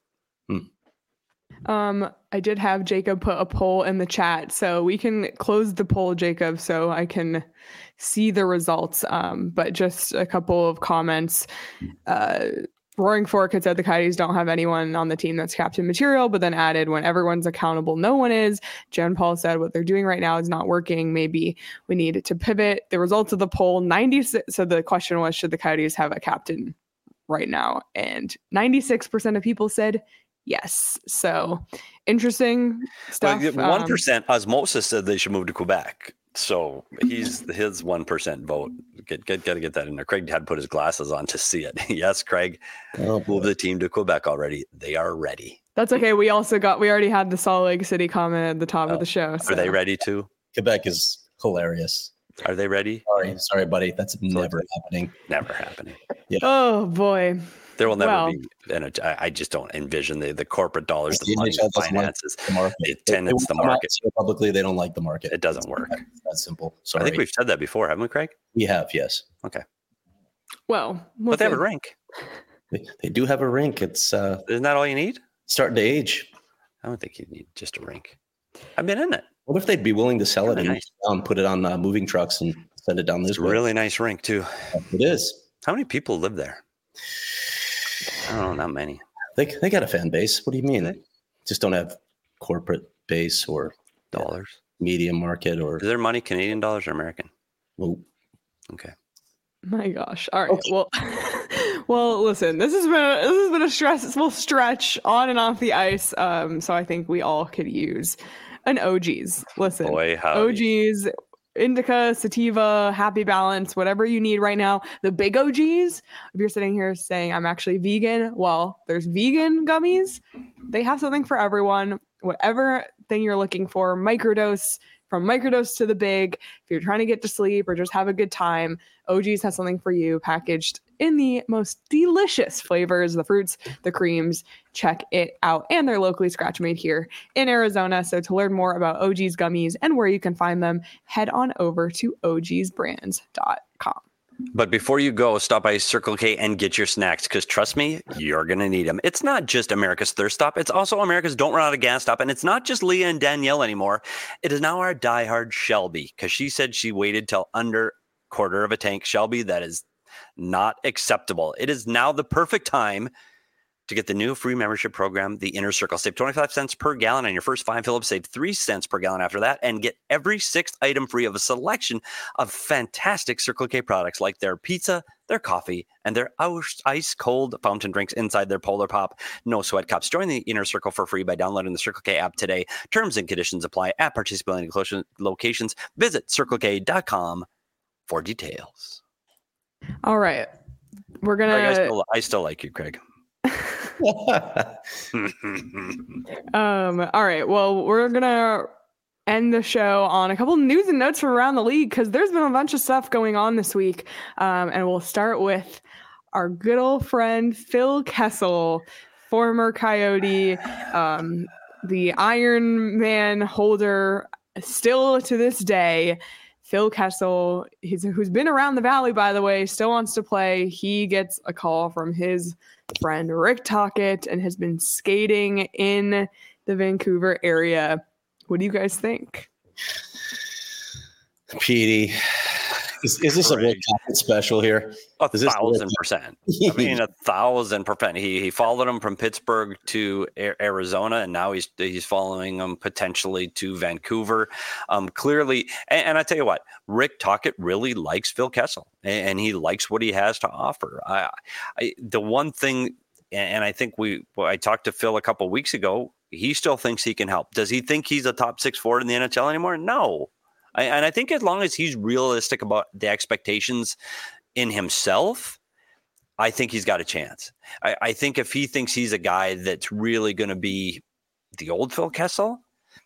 I did have Jacob put a poll in the chat, so we can close the poll, Jacob, so I can see the results. But just a couple of comments. Roaring Fork had said the Coyotes don't have anyone on the team that's captain material, but then added, when everyone's accountable, no one is. Jen Paul said what they're doing right now is not working. Maybe we need to pivot. The results of the poll, 96. So the question was, should the Coyotes have a captain right now? And 96% of people said yes. So interesting stuff. 1% osmosis said they should move to Quebec. So his 1% vote. Got to get that in there. Craig had put his glasses on to see it. Yes, Craig. Move the team to Quebec already. They are ready. That's okay. We already had the Salt Lake City comment at the top of the show. So. Are they ready too? Quebec is hilarious. Are they ready? Sorry, buddy. That's never happening. Never happening. Yeah. Oh boy. There will never Well, be, and I just don't envision the corporate dollars, the The money, NHL the doesn't like finances. the market. It tenants the Come out market. and say publicly, they don't like the market. It doesn't work. That's simple. I Sorry. think we've said that before, haven't we, Craig? We have, yes. Okay. well, But they have a listen, rink. They do have a rink. It's Isn't that all you need? starting to age. I don't think you need just a rink. I've been in it. What if they'd be willing to sell it Really and nice. put it on moving trucks and send it down this It's a way? really nice rink, too. It is. How many people live there? I don't know, not many. They got a fan base. What do you mean? Do they? Just don't have corporate base or Dollars. media market or. Is their money Canadian dollars or American? Well, Okay. my gosh. All right. Okay. Well, well, listen, this has been a stressful stretch on and off the ice. So I think we all could use an OGs. Listen, Boy, howdy. OGs, indica, sativa, happy balance, whatever you need right now. The big OGs, if you're sitting here saying I'm actually vegan, well, there's vegan gummies. They have something for everyone. Whatever thing you're looking for, microdose, from microdose to the big. If you're trying to get to sleep or just have a good time, OGs has something for you, packaged in the most delicious flavors, the fruits, the creams. Check it out. And they're locally scratch made here in Arizona. So to learn more about OGs gummies and where you can find them, head on over to ogsbrands.com. But before you go, stop by Circle K and get your snacks, because trust me, you're going to need them. It's not just America's Thirst Stop. It's also America's Don't Run Out of Gas Stop. And it's not just Leah and Danielle anymore. It is now our diehard Shelby, because she said she waited till under quarter of a tank. Shelby, that is not acceptable. It is now the perfect time to get the new free membership program, the Inner Circle. Save 25 cents per gallon on your first 5 fill-ups. Save 3 cents per gallon after that, and get every 6th item free of a selection of fantastic Circle K products like their pizza, their coffee, and their ice-cold fountain drinks inside their Polar Pop No Sweat cups. Join the Inner Circle for free by downloading the Circle K app today. Terms and conditions apply at participating locations. Visit CircleK.com for details. All right. We're going Craig, to... I still like you, Craig. All right. Well, we're gonna end the show on a couple news and notes from around the league, because there's been a bunch of stuff going on this week. And we'll start with our good old friend Phil Kessel, former Coyote, the Iron Man holder, still to this day. Phil Kessel, who's been around the Valley, by the way, still wants to play. He gets a call from his friend Rick Tocchet and has been skating in the Vancouver area. What do you guys think? Petey, is this a Rick Tocchet special here? 1,000%. I mean, 1,000%. He followed him from Pittsburgh to Arizona, and now he's following him potentially to Vancouver. Clearly, and I tell you what, Rick Tocchet really likes Phil Kessel, and he likes what he has to offer. The one thing, and I think I talked to Phil a couple of weeks ago, he still thinks he can help. Does he think he's a top 6 forward in the NHL anymore? No. And I think as long as he's realistic about the expectations in himself, I think he's got a chance. I think if he thinks he's a guy that's really going to be the old Phil Kessel,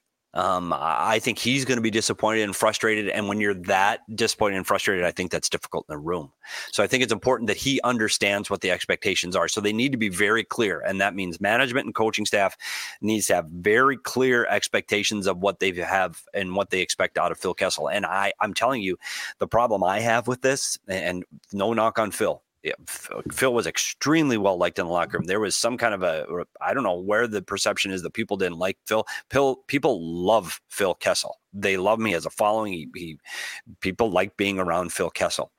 I think he's going to be disappointed and frustrated. And when you're that disappointed and frustrated, I think that's difficult in the room. So I think it's important that he understands what the expectations are. So they need to be very clear. And that means management and coaching staff needs to have very clear expectations of what they have and what they expect out of Phil Kessel. And I'm telling you, the problem I have with this, and no knock on Phil, yeah, Phil was extremely well liked in the locker room. There was some kind of I don't know where the perception is that people didn't like Phil. People love Phil Kessel. They love me as a following. People like being around Phil Kessel.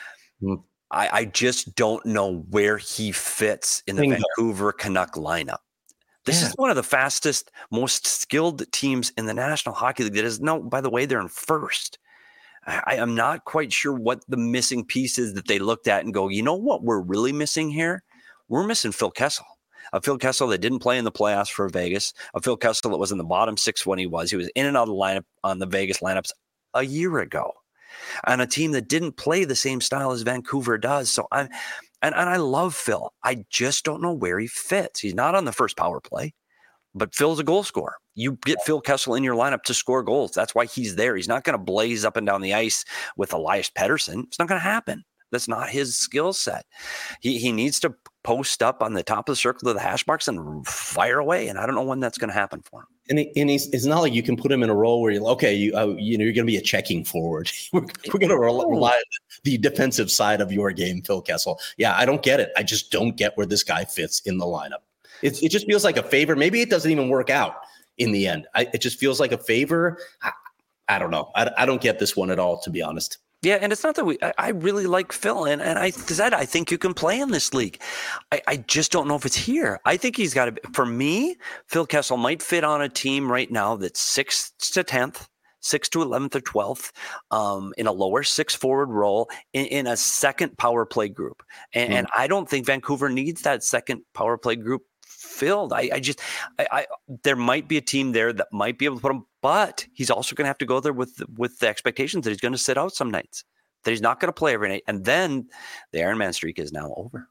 I just don't know where he fits in the Vancouver Canuck lineup. This is one of the fastest, most skilled teams in the National Hockey League. That is, no, by the way, they're in first. I am not quite sure what the missing piece is that they looked at and go, you know what we're really missing here? We're missing Phil Kessel. A Phil Kessel that didn't play in the playoffs for Vegas. A Phil Kessel that was in the bottom 6 when he was. He was in and out of the lineup on the Vegas lineups a year ago. On a team that didn't play the same style as Vancouver does. So I love Phil. I just don't know where he fits. He's not on the first power play. But Phil's a goal scorer. You get Phil Kessel in your lineup to score goals. That's why he's there. He's not going to blaze up and down the ice with Elias Pettersson. It's not going to happen. That's not his skill set. He needs to post up on the top of the circle of the hash marks and fire away. And I don't know when that's going to happen for him. And it's not like you can put him in a role where you're you're going to be a checking forward. We're going to rely on the defensive side of your game, Phil Kessel. Yeah, I don't get it. I just don't get where this guy fits in the lineup. It just feels like a favor. Maybe it doesn't even work out in the end. It just feels like a favor. I don't know. I don't get this one at all, to be honest. Yeah, and it's not that I really like Phil, and I said I think you can play in this league. I just don't know if it's here. I think he's got to be, for me, Phil Kessel might fit on a team right now that's 6th to 10th, 6th to 11th or 12th, in a lower 6 forward role in a second power play group. And I don't think Vancouver needs that second power play group filled. I there might be a team there that might be able to put him, but he's also going to have to go there with the expectations that he's going to sit out some nights, that he's not going to play every night. And then the Iron Man streak is now over.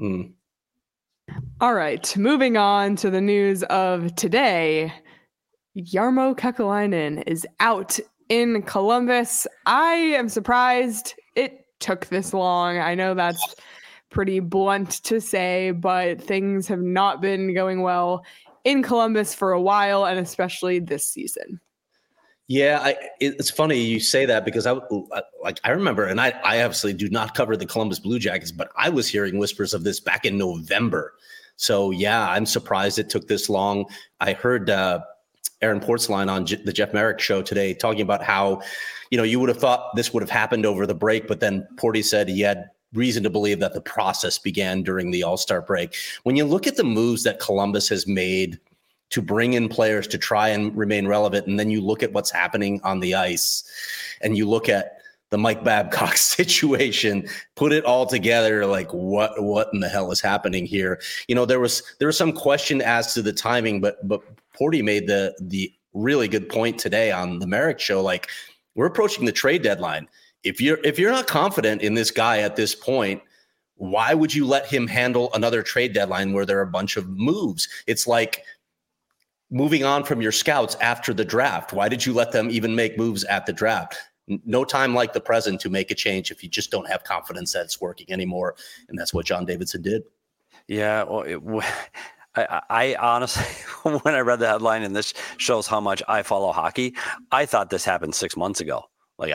All right, moving on to the news of today. Jarmo Kekalainen is out in Columbus. I am surprised it took this long. I know that's pretty blunt to say, but things have not been going well in Columbus for a while, and especially this season. Yeah, it's funny you say that, because I remember, and I obviously do not cover the Columbus Blue Jackets, but I was hearing whispers of this back in November. So yeah, I'm surprised it took this long. I heard Aaron Portzline on the Jeff Merrick show today talking about how, you would have thought this would have happened over the break, but then Porty said he had reason to believe that the process began during the All-Star break. When you look at the moves that Columbus has made to bring in players to try and remain relevant, and then you look at what's happening on the ice, and you look at the Mike Babcock situation, put it all together, like what in the hell is happening here? There was some question as to the timing, but Porty made the really good point today on the Merrick show. Like, we're approaching the trade deadline. If you're not confident in this guy at this point, why would you let him handle another trade deadline where there are a bunch of moves? It's like moving on from your scouts after the draft. Why did you let them even make moves at the draft? No time like the present to make a change if you just don't have confidence that it's working anymore. And that's what John Davidson did. Yeah, well, I honestly, when I read the headline, and this shows how much I follow hockey, I thought this happened 6 months ago.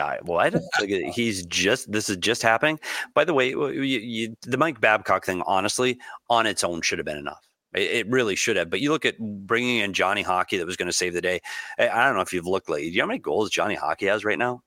This is just happening. By the way, the Mike Babcock thing, honestly, on its own should have been enough. It really should have. But you look at bringing in Johnny Hockey that was going to save the day. I don't know if you've looked lately. Do you know how many goals Johnny Hockey has right now?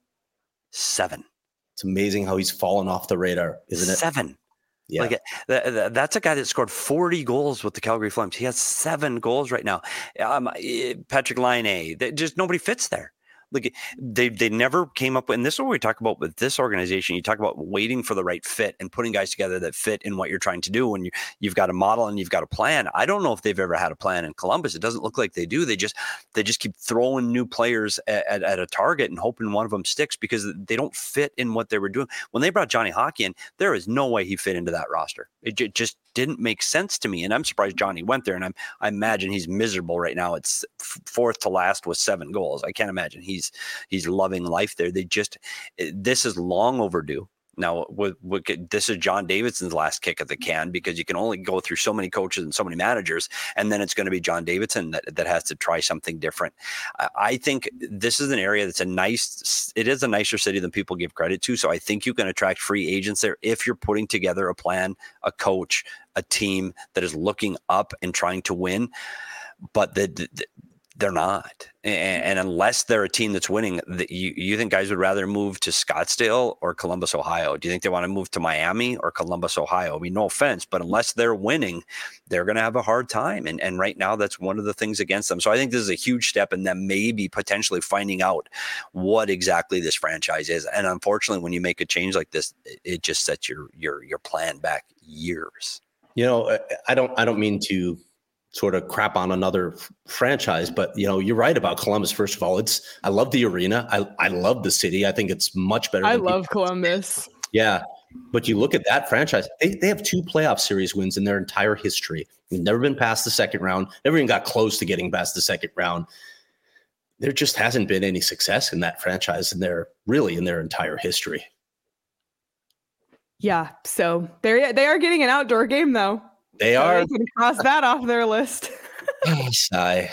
7. It's amazing how he's fallen off the radar, isn't it? 7. Yeah. That's a guy that scored 40 goals with the Calgary Flames. He has 7 goals right now. Patrick Laine, just nobody fits there. Like, they never came up with, and this is what we talk about with this organization. You talk about waiting for the right fit and putting guys together that fit in what you're trying to do. When you've got a model and you've got a plan. I don't know if they've ever had a plan in Columbus. It doesn't look like they do. They just keep throwing new players at a target and hoping one of them sticks, because they don't fit in what they were doing. When they brought Johnny Hockey in, there is no way he fit into that roster. It just didn't make sense to me. And I'm surprised Johnny went there. And I imagine he's miserable right now. It's 4th to last with 7 goals. I can't imagine he's loving life there. This is long overdue. Now, this is John Davidson's last kick at the can, because you can only go through so many coaches and so many managers, and then it's going to be John Davidson that has to try something different. I think this is an area that's it is a nicer city than people give credit to. So I think you can attract free agents there if you're putting together a plan, a coach, a team that is looking up and trying to win. But they're not. And unless they're a team that's winning, you think guys would rather move to Scottsdale or Columbus, Ohio? Do you think they want to move to Miami or Columbus, Ohio? I mean, no offense, but unless they're winning, they're going to have a hard time. And right now, that's one of the things against them. So I think this is a huge step in them maybe potentially finding out what exactly this franchise is. And unfortunately, when you make a change like this, it just sets your plan back years. I don't mean to sort of crap on another franchise, but you're right about Columbus. First of all, I love the arena. I love the city. I think it's much better. I love Columbus. Yeah. But you look at that franchise, they have 2 playoff series wins in their entire history. They've never been past the second round. Never even got close to getting past the second round. There just hasn't been any success in that franchise in their entire history. Yeah, so they are getting an outdoor game though. They so are. They can cross that off their list. Sigh.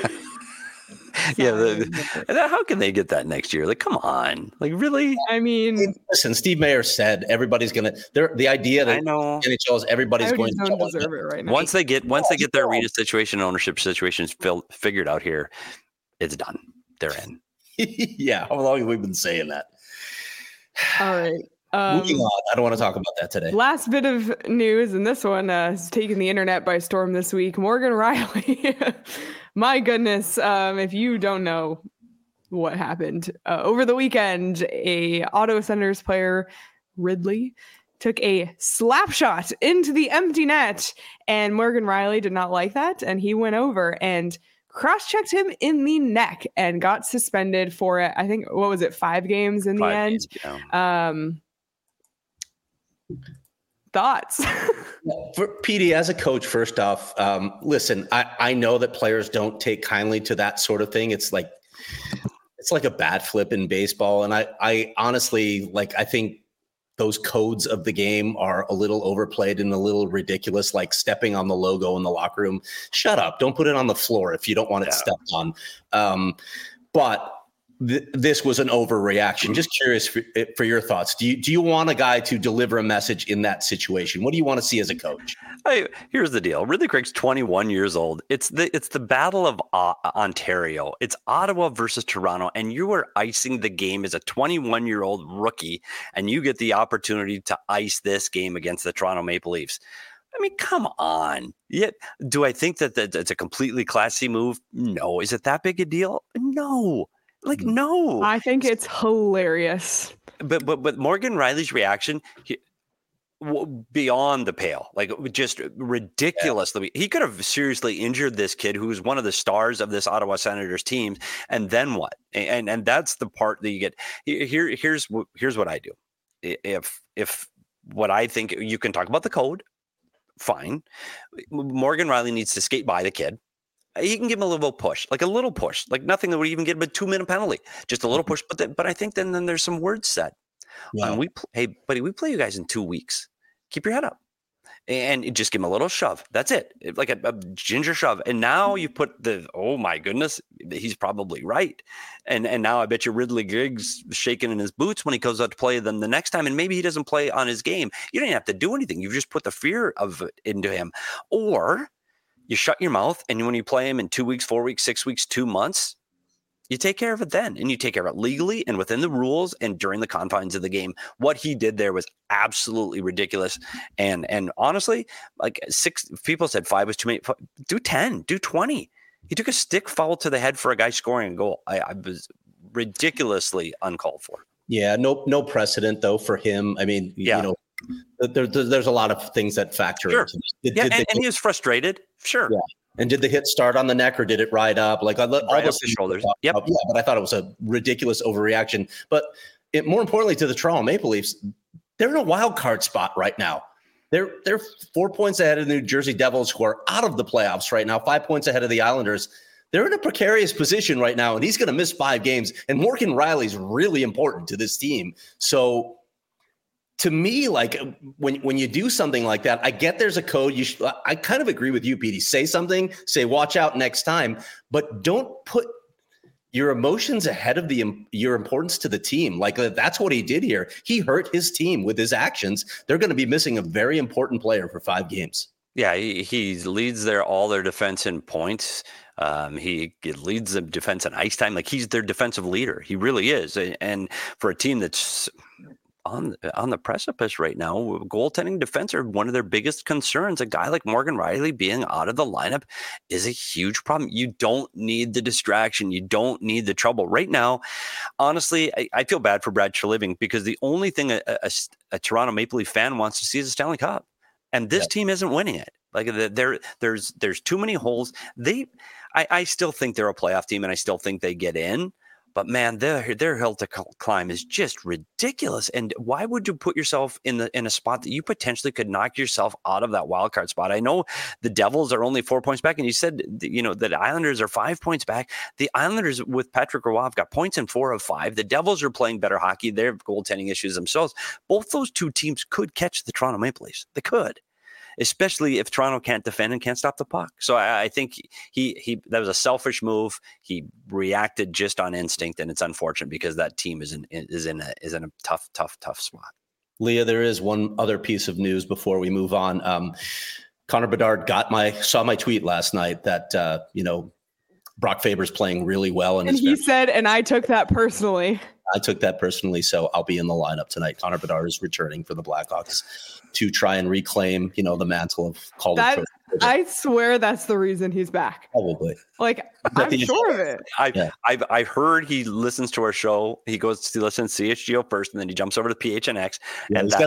Yeah, how can they get that next year? Like, come on, like really? I mean, listen, Steve Mayer said everybody's gonna. The idea that NHL is everybody's going to don't deserve it right now. Once they get their arena situation, ownership situations figured out here, it's done. They're in. Yeah, how long have we been saying that? All right. Moving on. I don't want to talk about that today. Last bit of news, and this one has taken the internet by storm this week. Morgan Rielly. My goodness, if you don't know what happened over the weekend, a Ottawa Senators player, Ridley, took a slap shot into the empty net, and Morgan Rielly did not like that, and he went over and cross-checked him in the neck and got suspended for it. I think, what was it, 5 games in the end? Yeah. Thoughts? For PD, as a coach, first off, listen, I know that players don't take kindly to that sort of thing. It's like a bat flip in baseball. And I honestly, I think those codes of the game are a little overplayed and a little ridiculous, like stepping on the logo in the locker room. Shut up. Don't put it on the floor if you don't want it stepped on. But this was an overreaction. Just curious for your thoughts. Do you want a guy to deliver a message in that situation? What do you want to see as a coach? Here's the deal. Ridley Craig's 21 years old. It's the Battle of Ontario. It's Ottawa versus Toronto, and you are icing the game as a 21-year-old rookie, and you get the opportunity to ice this game against the Toronto Maple Leafs. I mean, come on. Yet, do I think that it's a completely classy move? No. Is it that big a deal? No. No. I think it's hilarious. But Morgan Rielly's reaction beyond the pale, just ridiculously. Yeah. He could have seriously injured this kid who's one of the stars of this Ottawa Senators team. And then what? And that's the part that you get. Here's what I do. If what I think, you can talk about the code, fine. Morgan Rielly needs to skate by the kid. He can give him a little push, nothing that would even get him a 2-minute penalty, just a little push. But I think then there's some words said. Yeah. Hey, buddy, we play you guys in 2 weeks. Keep your head up, and just give him a little shove. That's it, like a ginger shove. And now you put oh my goodness, he's probably right. And now I bet you Ridley Griggs shaking in his boots when he goes out to play them the next time, and maybe he doesn't play on his game. You don't even have to do anything. You just put the fear of it into him, or you shut your mouth, and when you play him in 2 weeks, 4 weeks, 6 weeks, 2 months, you take care of it then. And you take care of it legally and within the rules and during the confines of the game. What he did there was absolutely ridiculous. And honestly, 6 people said 5 was too many. Do 10, do 20. He took a stick foul to the head for a guy scoring a goal. I was ridiculously uncalled for. Yeah, no precedent, though, for him. I mean, there's a lot of things that factor into this. And he was frustrated. Sure. Yeah. And did the hit start on the neck or did it ride up? All those shoulders. Yep. Yeah, but I thought it was a ridiculous overreaction. But more importantly to the Toronto Maple Leafs, they're in a wild card spot right now. They're 4 points ahead of the New Jersey Devils, who are out of the playoffs right now, 5 points ahead of the Islanders. They're in a precarious position right now, and he's going to miss 5 games. And Morgan Rielly's really important to this team. So to me, when you do something like that, I get there's a code. I kind of agree with you, Petey. Say something, say watch out next time, but don't put your emotions ahead of your importance to the team. That's what he did here. He hurt his team with his actions. They're going to be missing a very important player for 5 games. Yeah, he leads all their defense in points. He leads the defense in ice time. He's their defensive leader. He really is. And for a team that's on the precipice right now, goaltending defense are one of their biggest concerns. A guy like Morgan Rielly being out of the lineup is a huge problem. You don't need the distraction. You don't need the trouble right now. Honestly, I feel bad for Brad Treliving, because the only thing a Toronto Maple Leaf fan wants to see is a Stanley Cup, and this team isn't winning it. There's too many holes. I still think they're a playoff team, and I still think they get in. But man, their hill to climb is just ridiculous. And why would you put yourself in a spot that you potentially could knock yourself out of that wild card spot? I know the Devils are only 4 points back, and you said that the Islanders are 5 points back. The Islanders with Patrick Roy have got points in 4 of 5. The Devils are playing better hockey. They have goaltending issues themselves. Both those two teams could catch the Toronto Maple Leafs. They could. Especially if Toronto can't defend and can't stop the puck. So I think he that was a selfish move. He reacted just on instinct, and it's unfortunate because that team is in a tough spot. Leah, there is one other piece of news before we move on. Connor Bedard saw my tweet last night that Brock Faber's playing really well, and he said, and I took that personally. So I'll be in the lineup tonight. Connor Bedard is returning for the Blackhawks to try and reclaim, the mantle of Calder. I swear that's the reason he's back. Probably. I'm sure of it. I've heard he listens to our show. He goes to listen to CHGO first, and then he jumps over to PHNX. Yeah, and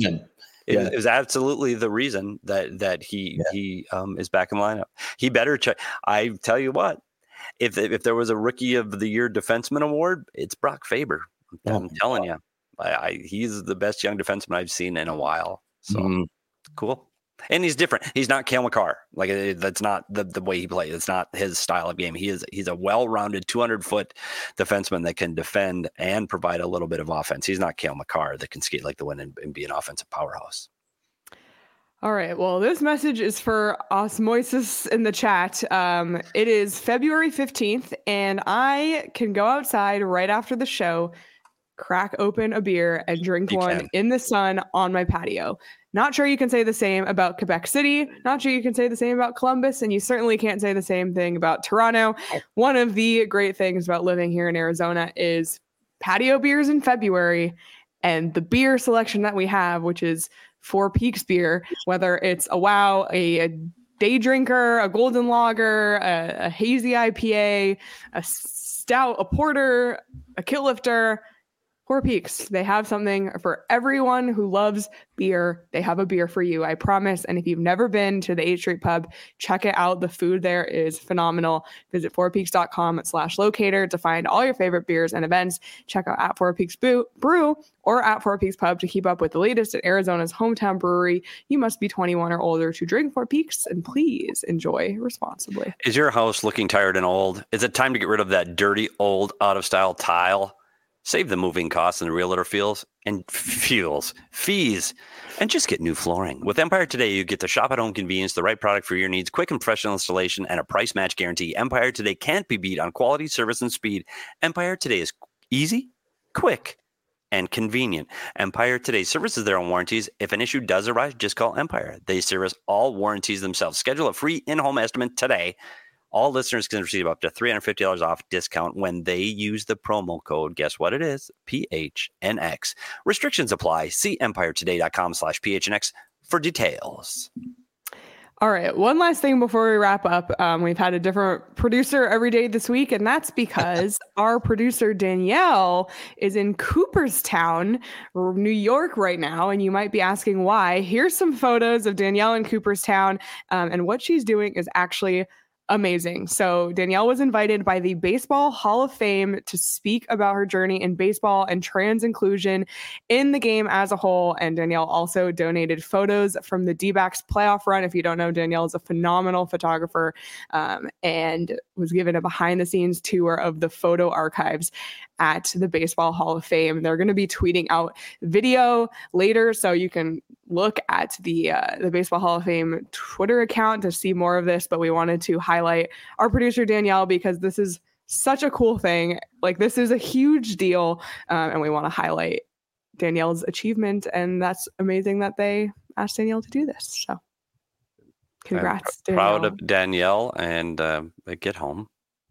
it was absolutely the reason that he is back in the lineup. He better check. I tell you what. If there was a Rookie of the Year defenseman award, it's Brock Faber. I'm telling you, he's the best young defenseman I've seen in a while. So cool. And he's different. He's not Cale Makar. That's not the way he plays. It's not his style of game. He's a well-rounded 200-foot defenseman that can defend and provide a little bit of offense. He's not Cale Makar that can skate like the wind and be an offensive powerhouse. All right. Well, this message is for Osmosis in the chat. It is February 15th, and I can go outside right after the show, crack open a beer, and drink one in the sun on my patio. Not sure you can say the same about Quebec City. Not sure you can say the same about Columbus, and you certainly can't say the same thing about Toronto. One of the great things about living here in Arizona is patio beers in February, and the beer selection that we have, which is Four Peaks beer, whether it's a WOW, a day drinker, a golden lager, a hazy IPA, a stout, a porter, a kilt lifter. Four Peaks, they have something for everyone who loves beer. They have a beer for you, I promise. And if you've never been to the 8th Street Pub, check it out. The food there is phenomenal. Visit fourpeaks.com/locator to find all your favorite beers and events. Check out at Four Peaks Brew or at Four Peaks Pub to keep up with the latest at Arizona's hometown brewery. You must be 21 or older to drink Four Peaks, and please enjoy responsibly. Is your house looking tired and old? Is it time to get rid of that dirty, old, out-of-style tile? Save the moving costs and the realtor fees, and just get new flooring. With Empire Today, you get the shop-at-home convenience, the right product for your needs, quick and professional installation, and a price match guarantee. Empire Today can't be beat on quality, service, and speed. Empire Today is easy, quick, and convenient. Empire Today services their own warranties. If an issue does arise, just call Empire. They service all warranties themselves. Schedule a free in-home estimate today. All listeners can receive up to $350 off discount when they use the promo code. Guess what it is? PHNX. Restrictions apply. See empiretoday.com/PHNX for details. All right. One last thing before we wrap up. We've had a different producer every day this week, and that's because our producer Danielle is in Cooperstown, New York right now. And you might be asking why. Here's some photos of Danielle in Cooperstown. And what she's doing is actually amazing. So Danielle was invited by the Baseball Hall of Fame to speak about her journey in baseball and trans inclusion in the game as a whole. And Danielle also donated photos from the D-backs playoff run. If you don't know, Danielle is a phenomenal photographer and was given a behind-the-scenes tour of the photo archives at the Baseball Hall of Fame. They're going to be tweeting out video later, so you can look at the Baseball Hall of Fame Twitter account to see more of this. But we wanted to highlight our producer Danielle because this is such a cool thing. This is a huge deal, and we want to highlight Danielle's achievement. And that's amazing that they asked Danielle to do this. So, congrats, Danielle. Proud of Danielle, and get home.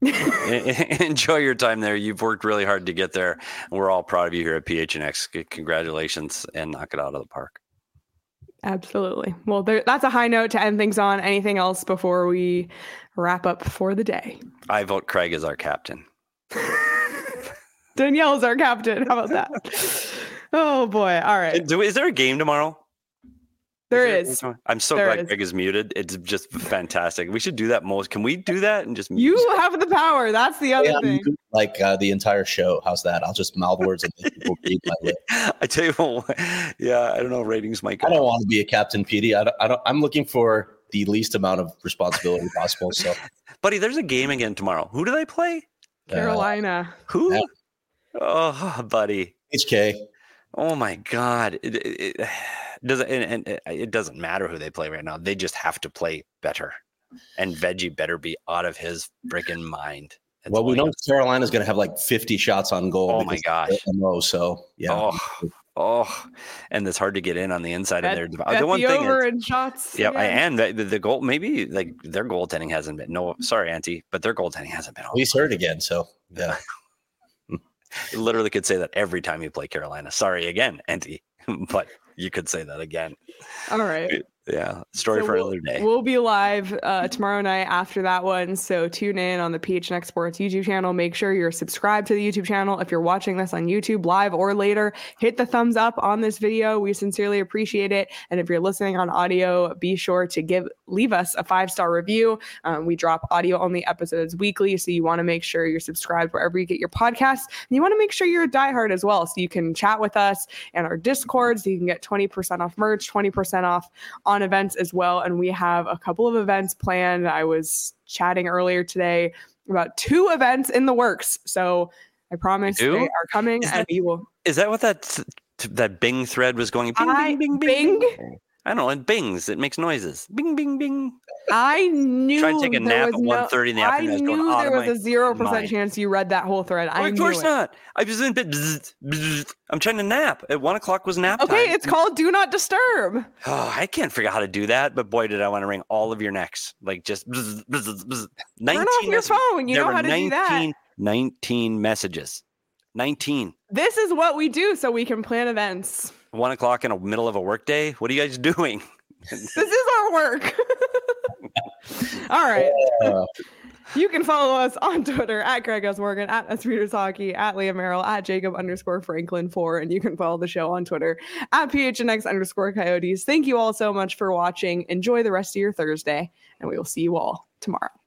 Enjoy your time there. You've worked really hard to get there, and we're all proud of you here at PHNX. Congratulations, and knock it out of the park. Absolutely. Well, that's a high note to end things on. Anything else before we wrap up for the day? I vote Craig as our captain. Danielle's our captain. How about that? Oh boy. All right. Is there a game tomorrow? There is. I'm so glad Greg is muted. It's just fantastic. We should do that most. Can we do that and just mute? You have the power. That's the other thing. Like the entire show. How's that? I'll just mouth words and people read my lip. I tell you what, yeah, I don't know. Ratings might go. I don't want to be a Captain Petey. I'm looking for the least amount of responsibility possible. So, buddy, there's a game again tomorrow. Who do they play? Carolina. Who? Yeah. Oh, buddy. HK. Oh my God. It doesn't matter who they play right now. They just have to play better. And Veggie better be out of his freaking mind. Well, we know Carolina's going to have like 50 shots on goal. Oh my gosh. So, yeah. Oh, and it's hard to get in on the inside of their. The one thing over in shots. Yeah, and the goal, maybe like their goaltending hasn't been. No, sorry, Auntie, but their goaltending hasn't been. He's hurt again, so yeah. You literally could say that every time you play Carolina. Sorry again, Auntie, but you could say that again. All right. Yeah, story for another day. We'll be live tomorrow night after that one, so tune in on the PHNX Sports YouTube channel. Make sure you're subscribed to the YouTube channel. If you're watching this on YouTube live or later, hit the thumbs up on this video. We sincerely appreciate it. And if you're listening on audio, be sure to leave us a 5-star review. We drop audio-only episodes weekly, so you want to make sure you're subscribed wherever you get your podcasts. And you want to make sure you're a diehard as well, so you can chat with us and our Discord, so you can get 20% off merch, 20% off on events as well. And we have a couple of events planned. I was chatting earlier today about 2 events in the works. So I promise they are coming. Is that what that Bing thread was going? Bing, bing, bing, bing. Bing? I don't know. It bings. It makes noises. Bing, bing, bing. I knew. Try to take a nap at 1:30 in the afternoon. I knew there was a 0% chance you read that whole thread. Of course not. I was in bed. I'm trying to nap. At 1:00 was nap time. Okay, it's called Do Not Disturb. Oh, I can't figure out how to do that, but boy, did I want to ring all of your necks. Like just 19 Turn off your phone. You know how to do that. 19 messages. 19. This is what we do so we can plan events. 1:00 in the middle of a workday. What are you guys doing? This is our work. All right. You can follow us on Twitter at Greg S. Morgan, at SReaders Hockey, at Liam Merrill, at Jacob_Franklin4. And you can follow the show on Twitter at PHNX_Coyotes. Thank you all so much for watching. Enjoy the rest of your Thursday, and we will see you all tomorrow.